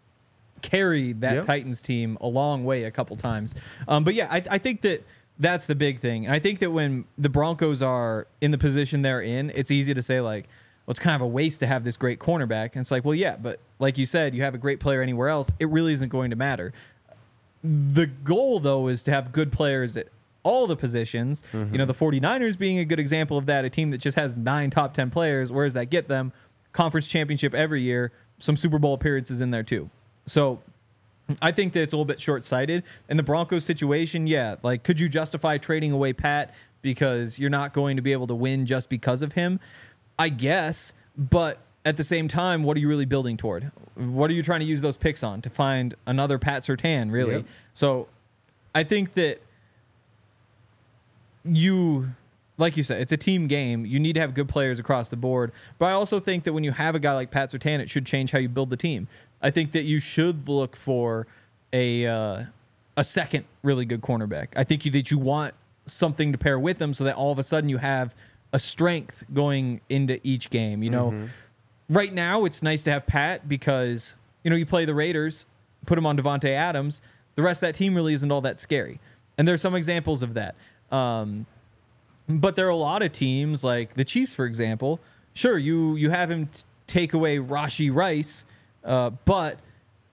carried that Yep. Titans team a long way a couple times. Um, but yeah, I, I think that that's the big thing. And I think that when the Broncos are in the position they're in, it's easy to say, like, well, it's kind of a waste to have this great cornerback. And it's like, well, yeah, but like you said, you have a great player anywhere else, it really isn't going to matter. The goal, though, is to have good players at all the positions. You know, the 49ers being a good example of that, a team that just has nine top ten players. Where does that get them? Conference championship every year, some Super Bowl appearances in there, too. So I think that it's a little bit short-sighted. In the Broncos situation, yeah, like, could you justify trading away Pat because you're not going to be able to win just because of him? I guess, but at the same time, what are you really building toward? What are you trying to use those picks on? To find another Pat Surtain, really? Yep. So I think that you, like you said, it's a team game. You need to have good players across the board. But I also think that when you have a guy like Pat Surtain, it should change how you build the team. I think that you should look for a uh, a second really good cornerback. I think you, that you want something to pair with them so that all of a sudden you have a strength going into each game. You know, right now it's nice to have Pat because, you know, you play the Raiders, put him on Devontae Adams. The rest of that team really isn't all that scary. And there's some examples of that. Um, but there are a lot of teams like the Chiefs, for example. Sure, you you have him t- take away Rashee Rice, uh, but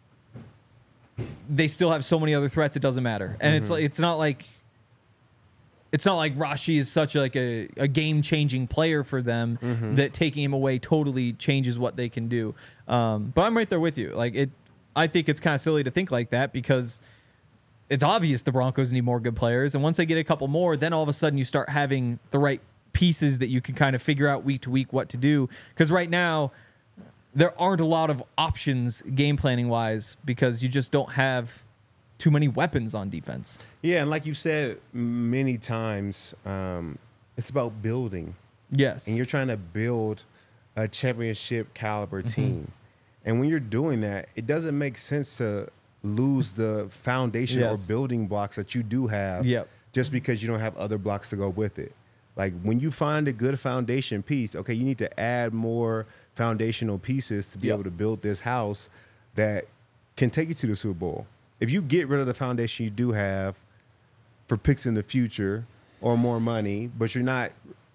they still have so many other threats. It doesn't matter, and it's like it's not like it's not like Rashee is such like a, a game changing player for them that taking him away totally changes what they can do. Um, but I'm right there with you. Like it, I think it's kind of silly to think like that because it's obvious the Broncos need more good players. And once they get a couple more, then all of a sudden you start having the right pieces that you can kind of figure out week to week what to do. Because right now, there aren't a lot of options game planning wise because you just don't have too many weapons on defense. Yeah, and like you said many times, um, it's about building. Yes. And you're trying to build a championship caliber Mm-hmm. team. And when you're doing that, it doesn't make sense to lose the foundation Yes. or building blocks that you do have Yep. just because you don't have other blocks to go with it. Like when you find a good foundation piece, okay, you need to add more foundational pieces to be Yep. able to build this house that can take you to the Super Bowl. If you get rid of the foundation you do have for picks in the future or more money, but you're not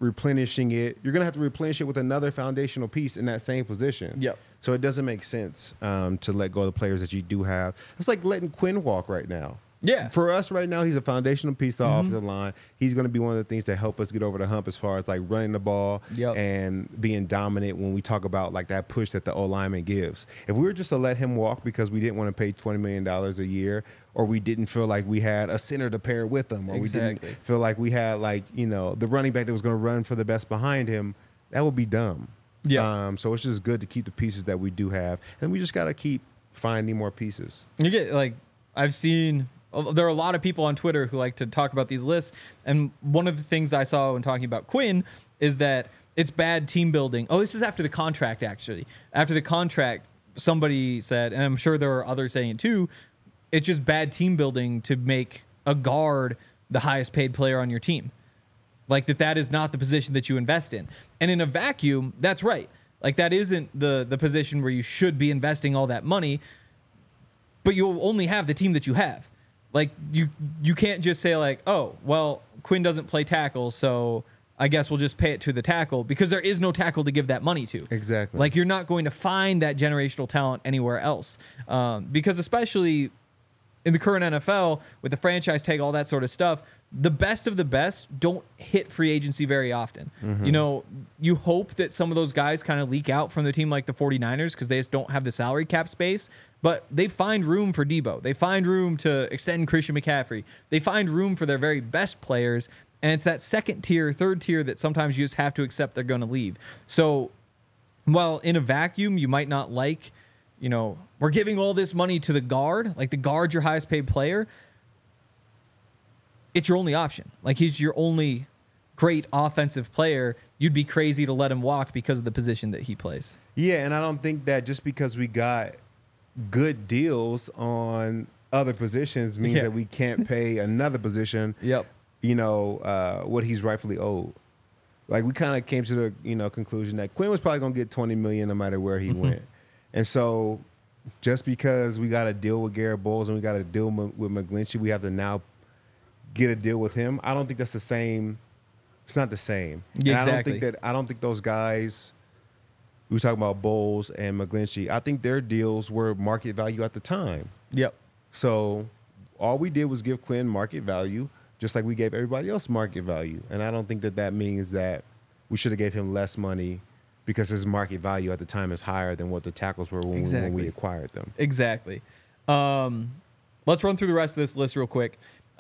replenishing it. You're gonna have to replenish it with another foundational piece in that same position. Yep. So it doesn't make sense um, to let go of the players that you do have. It's like letting Quinn walk right now. Yeah. For us right now, he's a foundational piece to the offensive line. He's going to be one of the things that help us get over the hump as far as like running the ball Yep. and being dominant when we talk about like that push that the O lineman gives. If we were just to let him walk because we didn't want to pay twenty million dollars a year, or we didn't feel like we had a center to pair with him, or Exactly. we didn't feel like we had like, you know, the running back that was going to run for the best behind him, that would be dumb. Yeah. Um, so it's just good to keep the pieces that we do have. And we just got to keep finding more pieces. You get like I've seen there are a lot of people on Twitter who like to talk about these lists, and one of the things I saw when talking about Quinn is that it's bad team building. Oh, this is after the contract actually. After the contract, somebody said, and I'm sure there are others saying it too, it's just bad team building to make a guard the highest paid player on your team. Like that that is not the position that you invest in. And in a vacuum, that's right. Like that isn't the the position where you should be investing all that money, but you'll only have the team that you have. Like you you can't just say like, "Oh, well, Quinn doesn't play tackle, so I guess we'll just pay it to the tackle," because there is no tackle to give that money to. Exactly. Like you're not going to find that generational talent anywhere else. Um, because especially in the current N F L with the franchise tag, all that sort of stuff, the best of the best don't hit free agency very often. Mm-hmm. You know, you hope that some of those guys kind of leak out from the team like the 49ers because they just don't have the salary cap space, but they find room for Debo. They find room to extend Christian McCaffrey. They find room for their very best players, and it's that second tier, third tier that sometimes you just have to accept they're going to leave. So while in a vacuum you might not like, you know, we're giving all this money to the guard, like the guard's your highest paid player, it's your only option. Like he's your only great offensive player. You'd be crazy to let him walk because of the position that he plays. Yeah, and I don't think that just because we got good deals on other positions means Yeah. that we can't pay another position, Yep. you know, uh, what he's rightfully owed. Like we kind of came to the, you know, conclusion that Quinn was probably going to get twenty million dollars no matter where he Mm-hmm. went. And so just because we got to deal with Garrett Bowles and we got to deal m- with McGlinchey, we have to now get a deal with him. I don't think that's the same. It's not the same. Yeah, And I don't exactly. think that I don't think those guys we were talking about Bowles and McGlinchey, I think their deals were market value at the time. Yep. So all we did was give Quinn market value, just like we gave everybody else market value. And I don't think that that means that we should have gave him less money because his market value at the time is higher than what the tackles were when, we, when Exactly. we acquired them. Exactly. Um, let's run through the rest of this list real quick.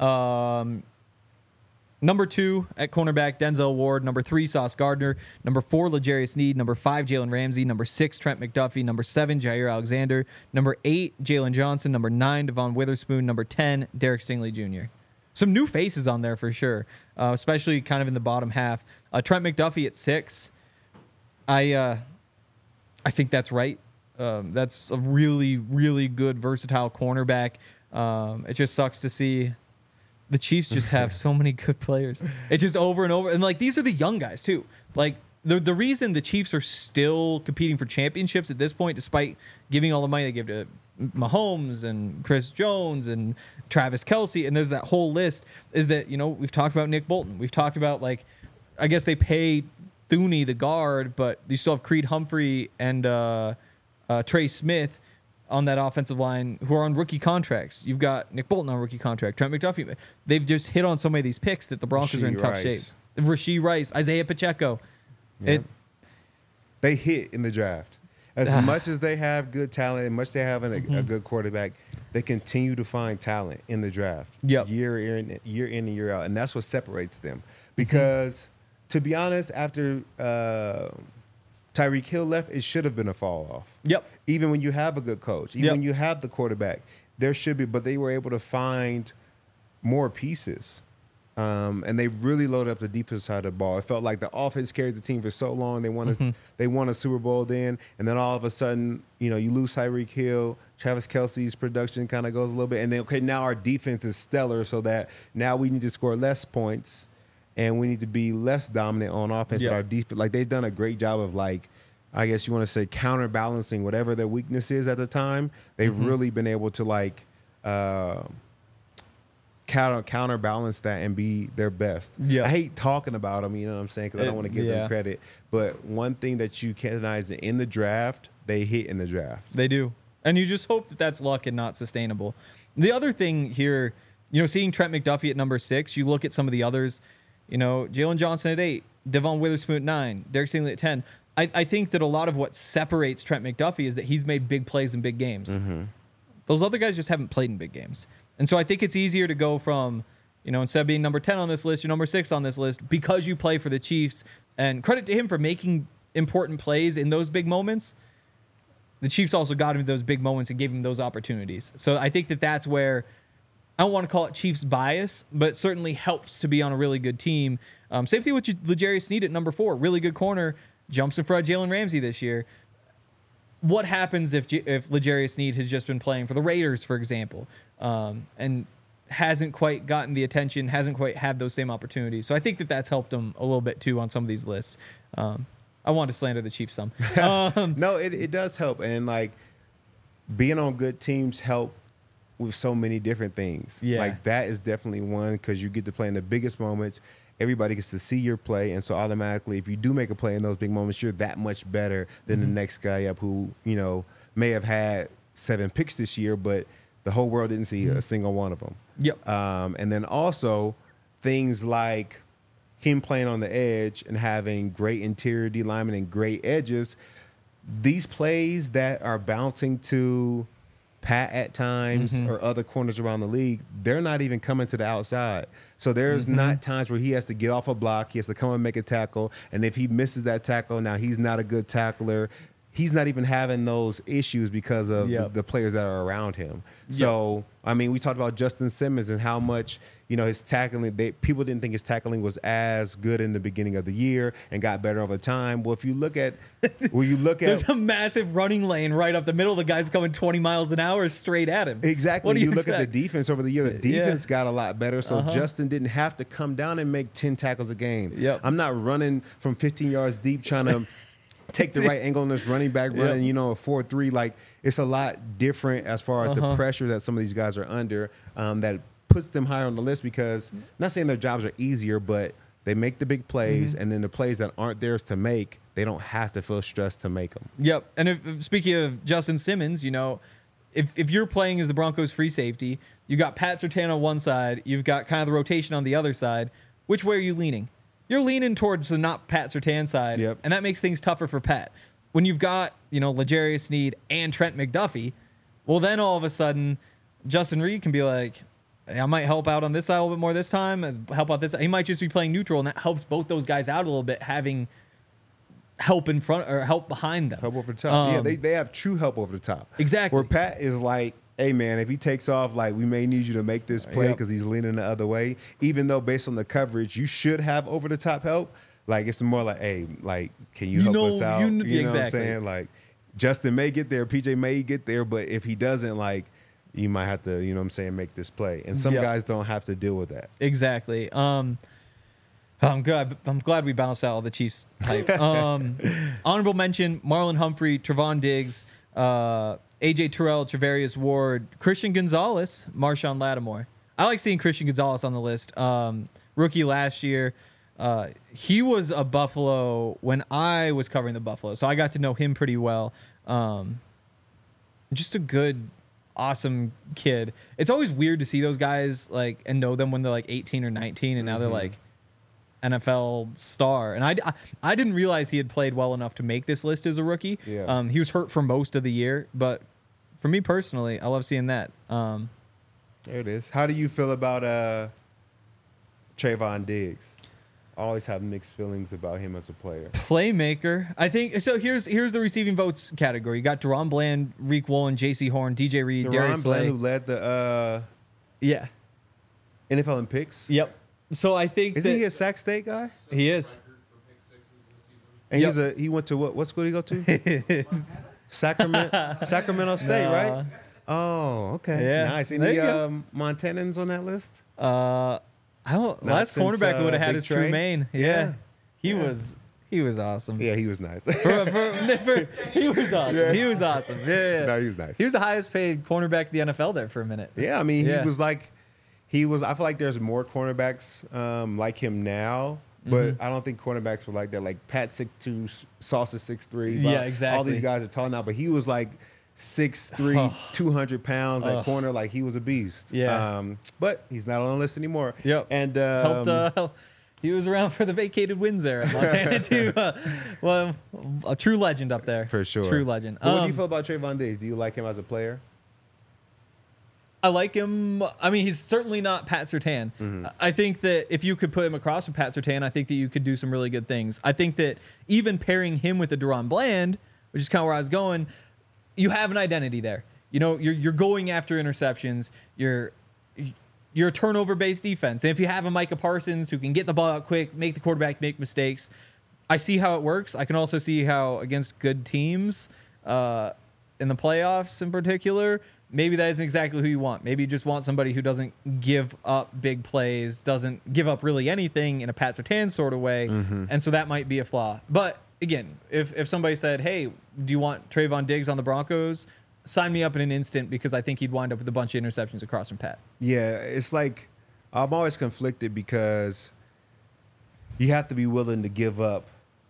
Um, number two at cornerback, Denzel Ward. Number three, Sauce Gardner. Number four, L'Jarius Sneed. Number five, Jalen Ramsey. Number six, Trent McDuffie. Number seven, Jair Alexander. Number eight, Jalen Johnson. Number nine, Devon Witherspoon. Number ten, Derek Stingley Junior Some new faces on there for sure, uh, especially kind of in the bottom half. Uh, Trent McDuffie at six. I uh, I think that's right. Um, that's a really, really good, versatile cornerback. Um, it just sucks to see the Chiefs just have so many good players. It's just over and over. And, like, these are the young guys, too. Like, the the reason the Chiefs are still competing for championships at this point, despite giving all the money they give to Mahomes and Chris Jones and Travis Kelce, and there's that whole list, is that, you know, we've talked about Nick Bolton. We've talked about, like, I guess they pay Thuney, the guard, but you still have Creed Humphrey and uh, uh, Trey Smith on that offensive line who are on rookie contracts. You've got Nick Bolton on rookie contract, Trent McDuffie. They've just hit on so many of these picks that the Broncos are in Rashee tough Rice. shape. Rashee Rice, Isaiah Pacheco. Yeah. It, They hit in the draft. As much as they have good talent, and much they have a, a good quarterback, they continue to find talent in the draft Yep. year in, year in and year out. And that's what separates them. Because, to be honest, after uh, Tyreek Hill left, it should have been a fall off. Yep. Even when you have a good coach, even Yep. when you have the quarterback, there should be, but they were able to find more pieces. Um, and they really loaded up the defensive side of the ball. It felt like the offense carried the team for so long. They won a, Mm-hmm. they won a Super Bowl then, and then all of a sudden, you know, you lose Tyreek Hill. Travis Kelce's production kind of goes a little bit, and then okay, now our defense is stellar, so that now we need to score less points, and we need to be less dominant on offense. Yeah. But our defense, like they've done a great job of like, I guess you want to say counterbalancing whatever their weakness is at the time. They've Mm-hmm. really been able to like. Uh, counter counterbalance that and be their best. Yeah. I hate talking about them, you know what I'm saying, because I don't It- want to give yeah. them credit. But one thing that you can recognize in the draft, they hit in the draft. They do. And you just hope that that's luck and not sustainable. The other thing here, you know, seeing Trent McDuffie at number six, you look at some of the others, you know, Jalen Johnson at eight, Devon Witherspoon at nine, Derek Stingley at ten. I, I think that a lot of what separates Trent McDuffie is that he's made big plays in big games. Mm-hmm. Those other guys just haven't played in big games. And so I think it's easier to go from, you know, instead of being number ten on this list, you're number six on this list because you play for the Chiefs. And credit to him for making important plays in those big moments. The Chiefs also got him those big moments and gave him those opportunities. So I think that that's where, I don't want to call it Chiefs bias, but it certainly helps to be on a really good team. Um, same thing with L'Jarius Sneed at number four, really good corner, jumps in front of Jalen Ramsey this year. What happens if J- if L'Jarius Sneed has just been playing for the Raiders, for example, um, and hasn't quite gotten the attention, hasn't quite had those same opportunities? So I think that that's helped him a little bit too on some of these lists. Um, I want to slander the Chiefs some. Um, No, it, it does help. And, like, being on good teams help with so many different things. Yeah. Like, that is definitely one because you get to play in the biggest moments. Everybody gets to see your play. And so, automatically, if you do make a play in those big moments, you're that much better than Mm-hmm. the next guy up who, you know, may have had seven picks this year, but the whole world didn't see Mm-hmm. a single one of them. Yep. Um, and then also things like him playing on the edge and having great interior D linemen and great edges. These plays that are bouncing to Pat at times Mm-hmm. or other corners around the league, they're not even coming to the outside. So there's Mm-hmm. not times where he has to get off a block. He has to come and make a tackle. And if he misses that tackle, now he's not a good tackler. He's not even having those issues because of Yep. the, the players that are around him. So, I mean, we talked about Justin Simmons and how much, you know, his tackling, they, people didn't think his tackling was as good in the beginning of the year and got better over time. Well, if you look at, well, you look There's at, a massive running lane right up the middle. The guy's coming twenty miles an hour straight at him. exactly, What do you, you look at expect? the defense over the year, the Yeah. defense got a lot better. So Uh-huh. Justin didn't have to come down and make ten tackles a game. Yep. I'm not running from fifteen yards deep trying to take the right angle on this running back running, Yep. you know, a four three. Like, it's a lot different as far as Uh-huh. the pressure that some of these guys are under um, that puts them higher on the list because I'm not saying their jobs are easier, but they make the big plays, Mm-hmm. and then the plays that aren't theirs to make, they don't have to feel stressed to make them. Yep. And if, if- speaking of Justin Simmons, you know, if if you're playing as the Broncos free safety, you got Pat Surtain on one side, you've got kind of the rotation on the other side. Which way are you leaning? You're leaning towards the not Pat Surtain side, Yep. and that makes things tougher for Pat. When you've got, you know, L'Jarius Sneed and Trent McDuffie, well, then all of a sudden, Justin Reed can be like, hey, I might help out on this side a little bit more this time, and help out this. He might just be playing neutral, and that helps both those guys out a little bit, having help in front or help behind them. Help over the top. yeah, Um, they, they have true help over the top. Exactly. Where Pat is like, hey, man, if he takes off, like, we may need you to make this play Yep. because he's leaning the other way. Even though based on the coverage, you should have over the top help. Like, it's more like, hey, like, can you, You help know- us out? you You, kn- know what I'm exactly. saying? Like, Justin may get there, P J may get there, but if he doesn't, like, you might have to, you know what I'm saying, make this play. And some Yep. guys don't have to deal with that. Exactly. Um, I'm glad. I'm glad we bounced out all the Chiefs hype. Um, honorable mention: Marlon Humphrey, Trevon Diggs, uh, A J Terrell, Travarius Ward, Christian Gonzalez, Marshawn Lattimore. I like seeing Christian Gonzalez on the list. Um, rookie last year. Uh, he was a Buffalo when I was covering the Buffalo, so I got to know him pretty well. Um, just a good, awesome kid. It's always weird to see those guys like and know them when they're like eighteen or nineteen, and now they're like N F L star. And I, I, I didn't realize he had played well enough to make this list as a rookie. Yeah. Um, he was hurt for most of the year, but for me personally, I love seeing that. Um, There it is. How do you feel about uh, Trayvon Diggs? I always have mixed feelings about him as a player. Playmaker. I think so. Here's here's the receiving votes category. You got Deron Bland, Reek Woolen, J C Horn, D J Reed, Deron Darius Bland, Slay. who led the uh, Yeah. N F L in picks. Yep. So I think Isn't that he a Sac State guy? he is. And Yep. he's a he went to what what school did he go to? Sacramento Sacramento State, Nah. right? Oh, okay. Yeah. Nice. There Any you go. um, Montanans on that list? Uh, I don't. Not Last since, cornerback uh, would have had Big his Trey? true main. Yeah. Yeah. He Yeah. was he was awesome. Yeah, he was nice. For- for- for- he was awesome. Yeah. He was awesome. Yeah, yeah. No, he was nice. He was the highest paid cornerback in the N F L there for a minute. Yeah, I mean, Yeah. he was like, he was. I feel like there's more cornerbacks um, like him now, but Mm-hmm. I don't think cornerbacks were like that. Like Pat six two, Sauce is six three. Yeah, All exactly. these guys are tall now, but he was like six three, two hundred pounds at corner. Like he was a beast. Yeah. Um, but he's not on the list anymore. Yep. And um, Helped. Uh, help- he was around for the vacated wins there at Montana too. Uh, well, a true legend up there. for sure, True legend. But what do Um, you feel about Trayvon Diggs? Do you like him as a player? I like him. I mean, he's certainly not Pat Surtain. Mm-hmm. I think that if you could put him across with Pat Surtain, I think that you could do some really good things. I think that even pairing him with a Deron Bland, which is kind of where I was going, you have an identity there. You know, you're you're going after interceptions. You're you're a turnover-based defense. And if you have a Micah Parsons who can get the ball out quick, make the quarterback make mistakes, I see how it works. I can also see how against good teams uh, in the playoffs in particular, maybe that isn't exactly who you want. Maybe you just want somebody who doesn't give up big plays, doesn't give up really anything in a Pat Surtain sort of way. And so that might be a flaw. But again, if, if somebody said, hey, do you want Trayvon Diggs on the Broncos? Sign me up in an instant because I think he'd wind up with a bunch of interceptions across from Pat. Yeah, it's like I'm always conflicted because you have to be willing to give up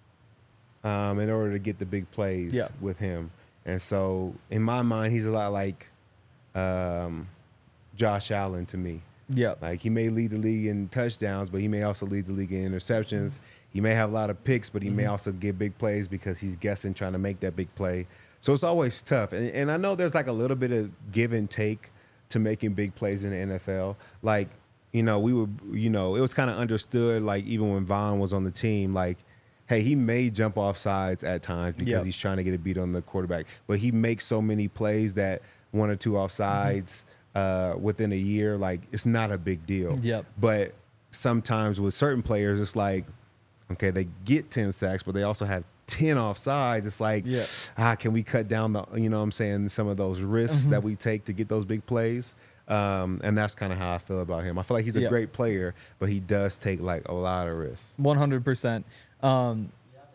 um, in order to get the big plays Yeah. with him. And so in my mind, he's a lot like um, Josh Allen to me. Yeah. Like he may lead the league in touchdowns, but he may also lead the league in interceptions. He may have a lot of picks, but he may also get big plays because he's guessing trying to make that big play. So it's always tough. And, and I know there's like a little bit of give and take to making big plays in the N F L. Like, you know, we were, you know, it was kind of understood, like even when Vaughn was on the team, like, hey, he may jump off sides at times because Yep. he's trying to get a beat on the quarterback. But he makes so many plays that one or two offsides uh, within a year, like it's not a big deal. Yep. But sometimes with certain players, it's like, okay, they get ten sacks, but they also have ten offsides. It's like, Yeah. ah, can we cut down the, you know what I'm saying, some of those risks Mm-hmm. that we take to get those big plays? Um, and that's kind of how I feel about him. I feel like he's a Yeah. great player, but he does take like a lot of risks. one hundred percent. Um,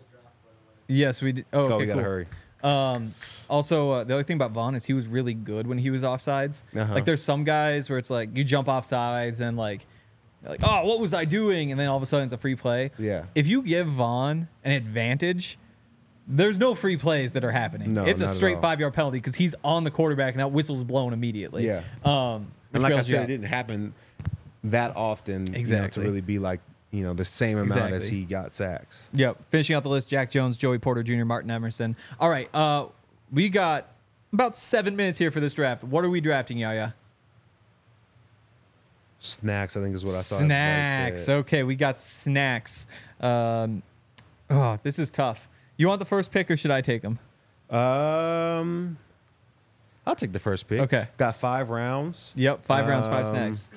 yes, we did. Oh, okay, oh, we gotta cool. hurry. Um, also, uh, the other thing about Vaughn is he was really good when he was offsides. Uh-huh. Like, there's some guys where it's like you jump off sides and like, you're like, oh, what was I doing? And then all of a sudden it's a free play. Yeah. If you give Vaughn an advantage, there's no free plays that are happening. No, it's a not at straight all. five yard penalty because he's on the quarterback and that whistle's blown immediately. Yeah. Um, which And like I bails you said, out. it didn't happen that often, you know, Exactly. to really be like, you know, the same amount as Exactly. he got sacks. Yep. Finishing out the list, Jack Jones, Joey Porter Junior, Martin Emerson. All right. Uh, we got about seven minutes here for this draft. What are we drafting, Yaya? Snacks, I think is what I saw. everybody Snacks. said. Okay, we got snacks. Um, oh, this is tough. You want the first pick or should I take them? Um, I'll take the first pick. Okay. Got five rounds. Yep. Five rounds, five Um, snacks.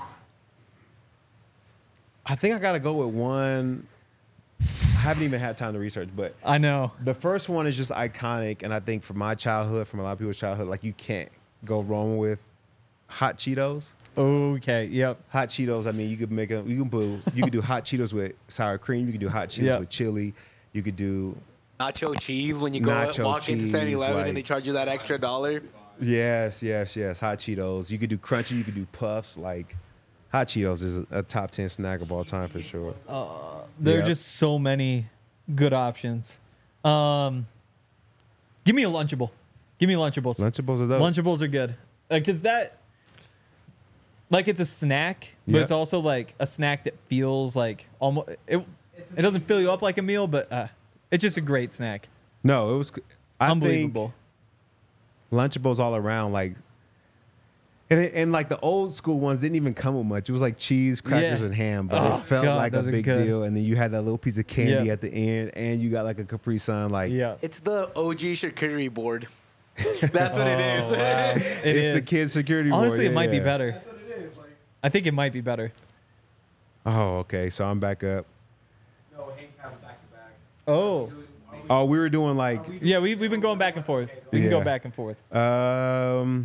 I think I got to go with one. I haven't even had time to research, but I know. the first one is just iconic, and I think from my childhood, from a lot of people's childhood, like you can't go wrong with hot Cheetos. Okay. Yep. Hot Cheetos. I mean, you could make a you can do you could do hot Cheetos with sour cream. You could do hot Cheetos Yeah. with chili. You could do Nacho cheese when you go Nacho walk into cheese, seven eleven like- and they charge you that extra dollar. yes, yes, yes. Hot Cheetos. You could do crunchy. You could do puffs. Like hot Cheetos is a top ten snack of all time for sure. There are Yep. just so many good options. Um, give me a Lunchable. Give me Lunchables. Lunchables are those. Lunchables are good. Like, is that like it's a snack, but Yeah. it's also like a snack that feels like almost it. It doesn't fill you up like a meal, but uh, it's just a great snack. No, it was. I Unbelievable. think Lunchables all around, like, and it, and like the old school ones didn't even come with much. It was like cheese, crackers, Yeah. and ham, but Oh, it felt God, like a those are big good. deal. And then you had that little piece of candy Yeah. at the end, and you got like a Capri Sun. Like, Yeah, It's the O G charcuterie board. That's what it is. Oh, wow. It it's is. the kids' security board. Honestly, it Yeah, might be yeah. better. I think it might be better. Oh, okay. So I'm back up. No, Hank had them back to back. Oh, Oh, we were doing like, yeah. We we've been going back and forth. We can go Yeah. back and forth. um,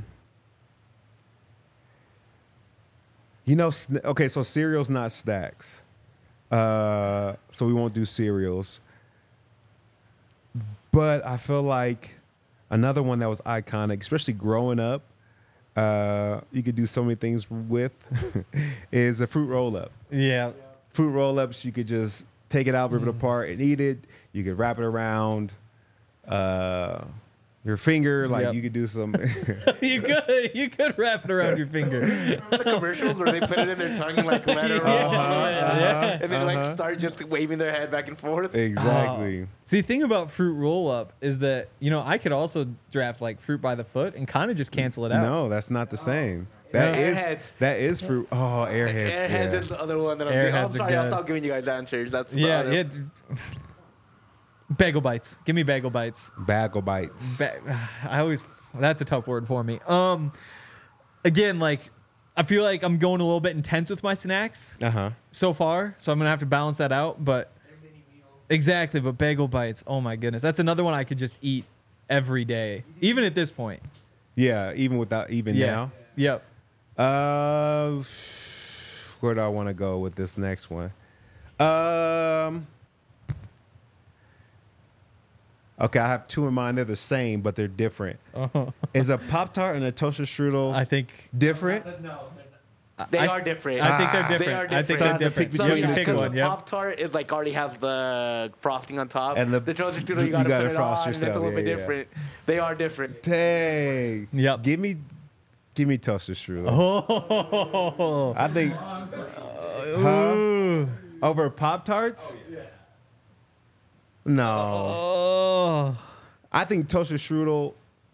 you know, sn- okay. So cereal's not snacks. Uh, so we won't do cereals. But I feel like another one that was iconic, especially growing up, uh, you could do so many things with is a fruit roll up. Yeah. Fruit roll ups, you could just take it out, rip it Mm. apart, and eat it. You could wrap it around uh, your finger. Like Yep. you could do some. you could you could wrap it around your finger. The commercials where they put it in their tongue and like let it roll, Yeah. and then like start just waving their head back and forth. exactly. Oh. See, the thing about fruit roll up is that, you know, I could also draft like fruit by the foot and kind of just cancel it out. No, that's not the same. That No. is Airheads. that is fruit. Oh, airheads. Airheads yeah. is the other one that I'm Airheads doing. are I'm sorry, I'll good. stop giving you guys answers. That's the Yeah, other. yeah. Bagel bites. Give me bagel bites. Bagel bites. Ba- I always that's a tough word for me. Um, again, like I feel like I'm going a little bit intense with my snacks Uh huh. so far, so I'm gonna have to balance that out. But exactly, but bagel bites. Oh my goodness, that's another one I could just eat every day, even at this point. Yeah, even without even Yeah. Yep. now. Uh, where do I want to go with this next one? Um. Okay, I have two in mind. They're the same, but they're different. Uh-huh. Is a Pop Tart and a toaster strudel I think different? They I- are different. I think they're Ah. different. They are I think different. So I they're have to pick different. between You have the to two. pick the one. Yep. Pop Tart is like already has the frosting on top, And the- the toaster strudel you you gotta, gotta put it frost on, and it's yourself. a little Yeah, bit yeah. different. They are different. Dang. Yep. Give me, give me toaster strudel. Oh. I think Ooh. over Pop Tarts. No, Oh. I think toaster strudel.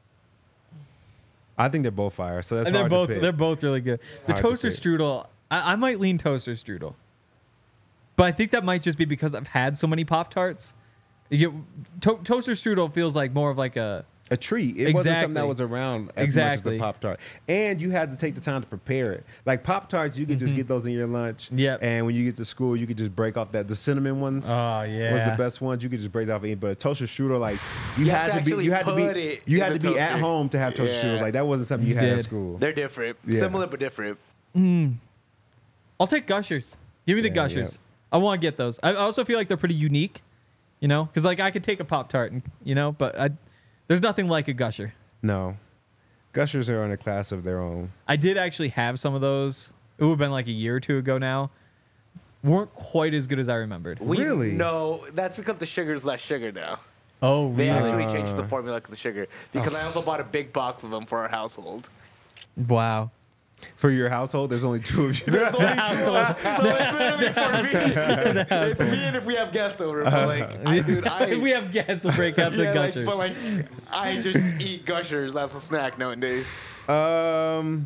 I think they're both fire. So that's And they're hard both to pick. they're both really good. The Hard to toaster pick. strudel, I, I might lean toaster strudel, but I think that might just be because I've had so many Pop Tarts. You get to- toaster strudel feels like more of like a a treat. It wasn't something that Exactly. was around as Exactly. much as the Pop Tart. And you had to take the time to prepare it. Like Pop Tarts, you could just get those in your lunch. Yep. And when you get to school, you could just break off that. The cinnamon ones Oh, was yeah. the best ones. You could just break that off and eat. But a toaster strudel, like you, You have had to to, be, actually you had to put be, it you in had the to be at toaster. home to have toaster Yeah. strudel. Like that wasn't something you, You had at did. school. They're different. Yeah. Similar but different. I'll take Gushers. Give me the Yeah, Gushers. yeah. I want to get those. I also feel like they're pretty unique, you know, because like I could take a Pop Tart and you know, but I, there's nothing like a Gusher. No, Gushers are in a class of their own. I did actually have some of those. It would have been like a year or two ago now. Weren't quite as good as I remembered. We, Really? No, that's because the sugar is less sugar now. Oh, They really? actually changed the formula because of sugar. Because I also bought a big box of them for our household. Wow. For your household, there's only two of you. There's only two. So it's literally for me. It's, it's me and if we have guests over. But like, I, dude, I, if we have guests, we'll break out the yeah, like, Gushers. but like, I just eat Gushers. That's a snack nowadays. Um,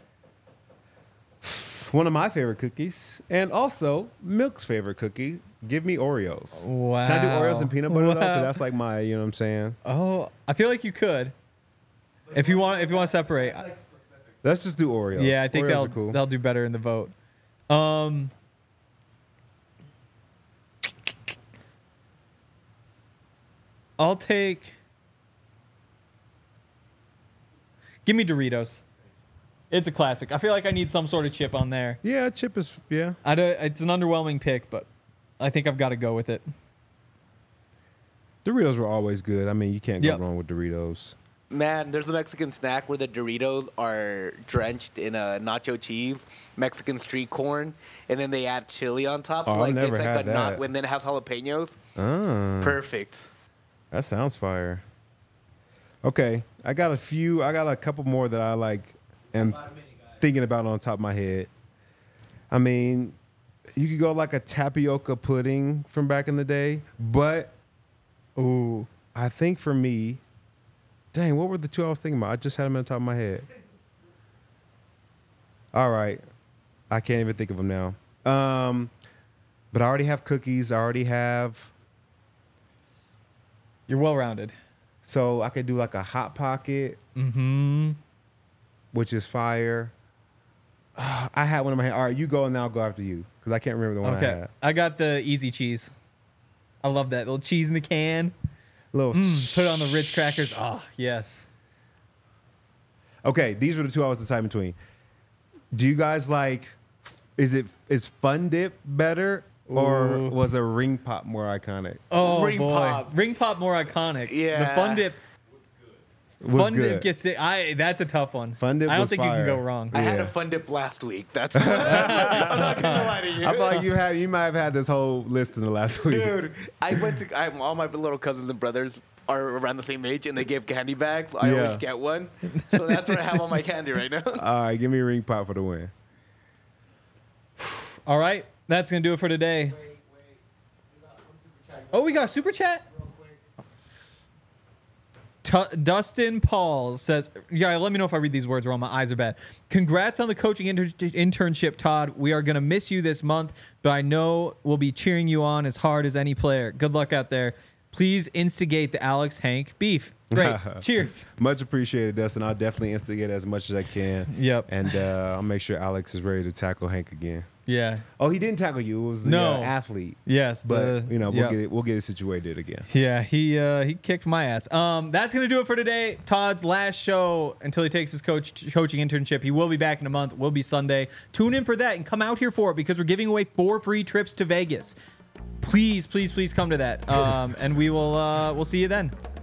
one of my favorite cookies, and also Milk's favorite cookie. Give me Oreos. Wow. Can I do Oreos and peanut butter though? Wow. Because that's like my, you know what I'm saying. Oh, I feel like you could. If you want, if you want to separate, Let's just do Oreos. yeah, I think Oreos they'll are cool. they'll do better in the vote. Um, I'll take. Give me Doritos. It's a classic. I feel like I need some sort of chip on there. Yeah, chip is yeah. I don't, it's an underwhelming pick, but I think I've got to go with it. Doritos were always good. I mean, you can't Yep. go wrong with Doritos. Man, there's a Mexican snack where the Doritos are drenched in a nacho cheese, Mexican street corn, and then they add chili on top. Oh, so I've like never it's like had a nut, that. and then it has jalapenos. Ah, Perfect. that sounds fire. Okay, I got a few. I got a couple more that I like am thinking about on top of my head. I mean, you could go like a tapioca pudding from back in the day, but Ooh. I think for me, dang, what were the two I was thinking about? I just had them on top of my head. All right, I can't even think of them now. Um, but I already have cookies. I already have. You're well rounded. So I could do like a hot pocket, Mm-hmm. which is fire. Ah, I had one in my head. All right, you go and then I'll go after you because I can't remember the one I Okay. had. I got the easy cheese. I love that little cheese in the can. Little. Mm, put it on the Ritz crackers. Oh, yes. Okay, these were the two I was deciding between. Do you guys like? Is it is Fun Dip better or Ooh. was a Ring Pop more iconic? Oh, Ring boy. Pop. Ring Pop more iconic. The Yeah. Fun Dip. was Fun good. dip gets it. I that's a tough one. Fun dip I don't was think you fire. can go wrong. I had Yeah. a fun dip last week. That's I'm not gonna lie to you. I feel like you had you might have had this whole list in the last week. Dude, I went to I, all my little cousins and brothers are around the same age, and they give candy bags. I Yeah. always get one, so that's where I have all my candy right now. All right, give me a ring pop for the win. All right, that's gonna do it for today. Oh, we got a super chat. Tu- Dustin Paul says, "Yeah, let me know if I read these words wrong. My eyes are bad. Congrats on the coaching inter- internship, Todd. We are gonna miss you this month, but I know we'll be cheering you on as hard as any player. Good luck out there. Please instigate the Alex Hank beef. Great. Cheers. Much appreciated, Dustin. I'll definitely instigate as much as I can. Yep. And uh, I'll make sure Alex is ready to tackle Hank again. Yeah. Oh, he didn't tackle you. It was the No. uh, athlete. Yes. But the- you know, we'll yep. get it. We'll get it situated again. Yeah, he uh, he kicked my ass. Um, that's gonna do it for today. Todd's last show until he takes his coach coaching internship. He will be back in a month. Will be Sunday. Tune in for that and come out here for it because we're giving away four free trips to Vegas. Please, please, please come to that. Um, and we will uh, we'll see you then.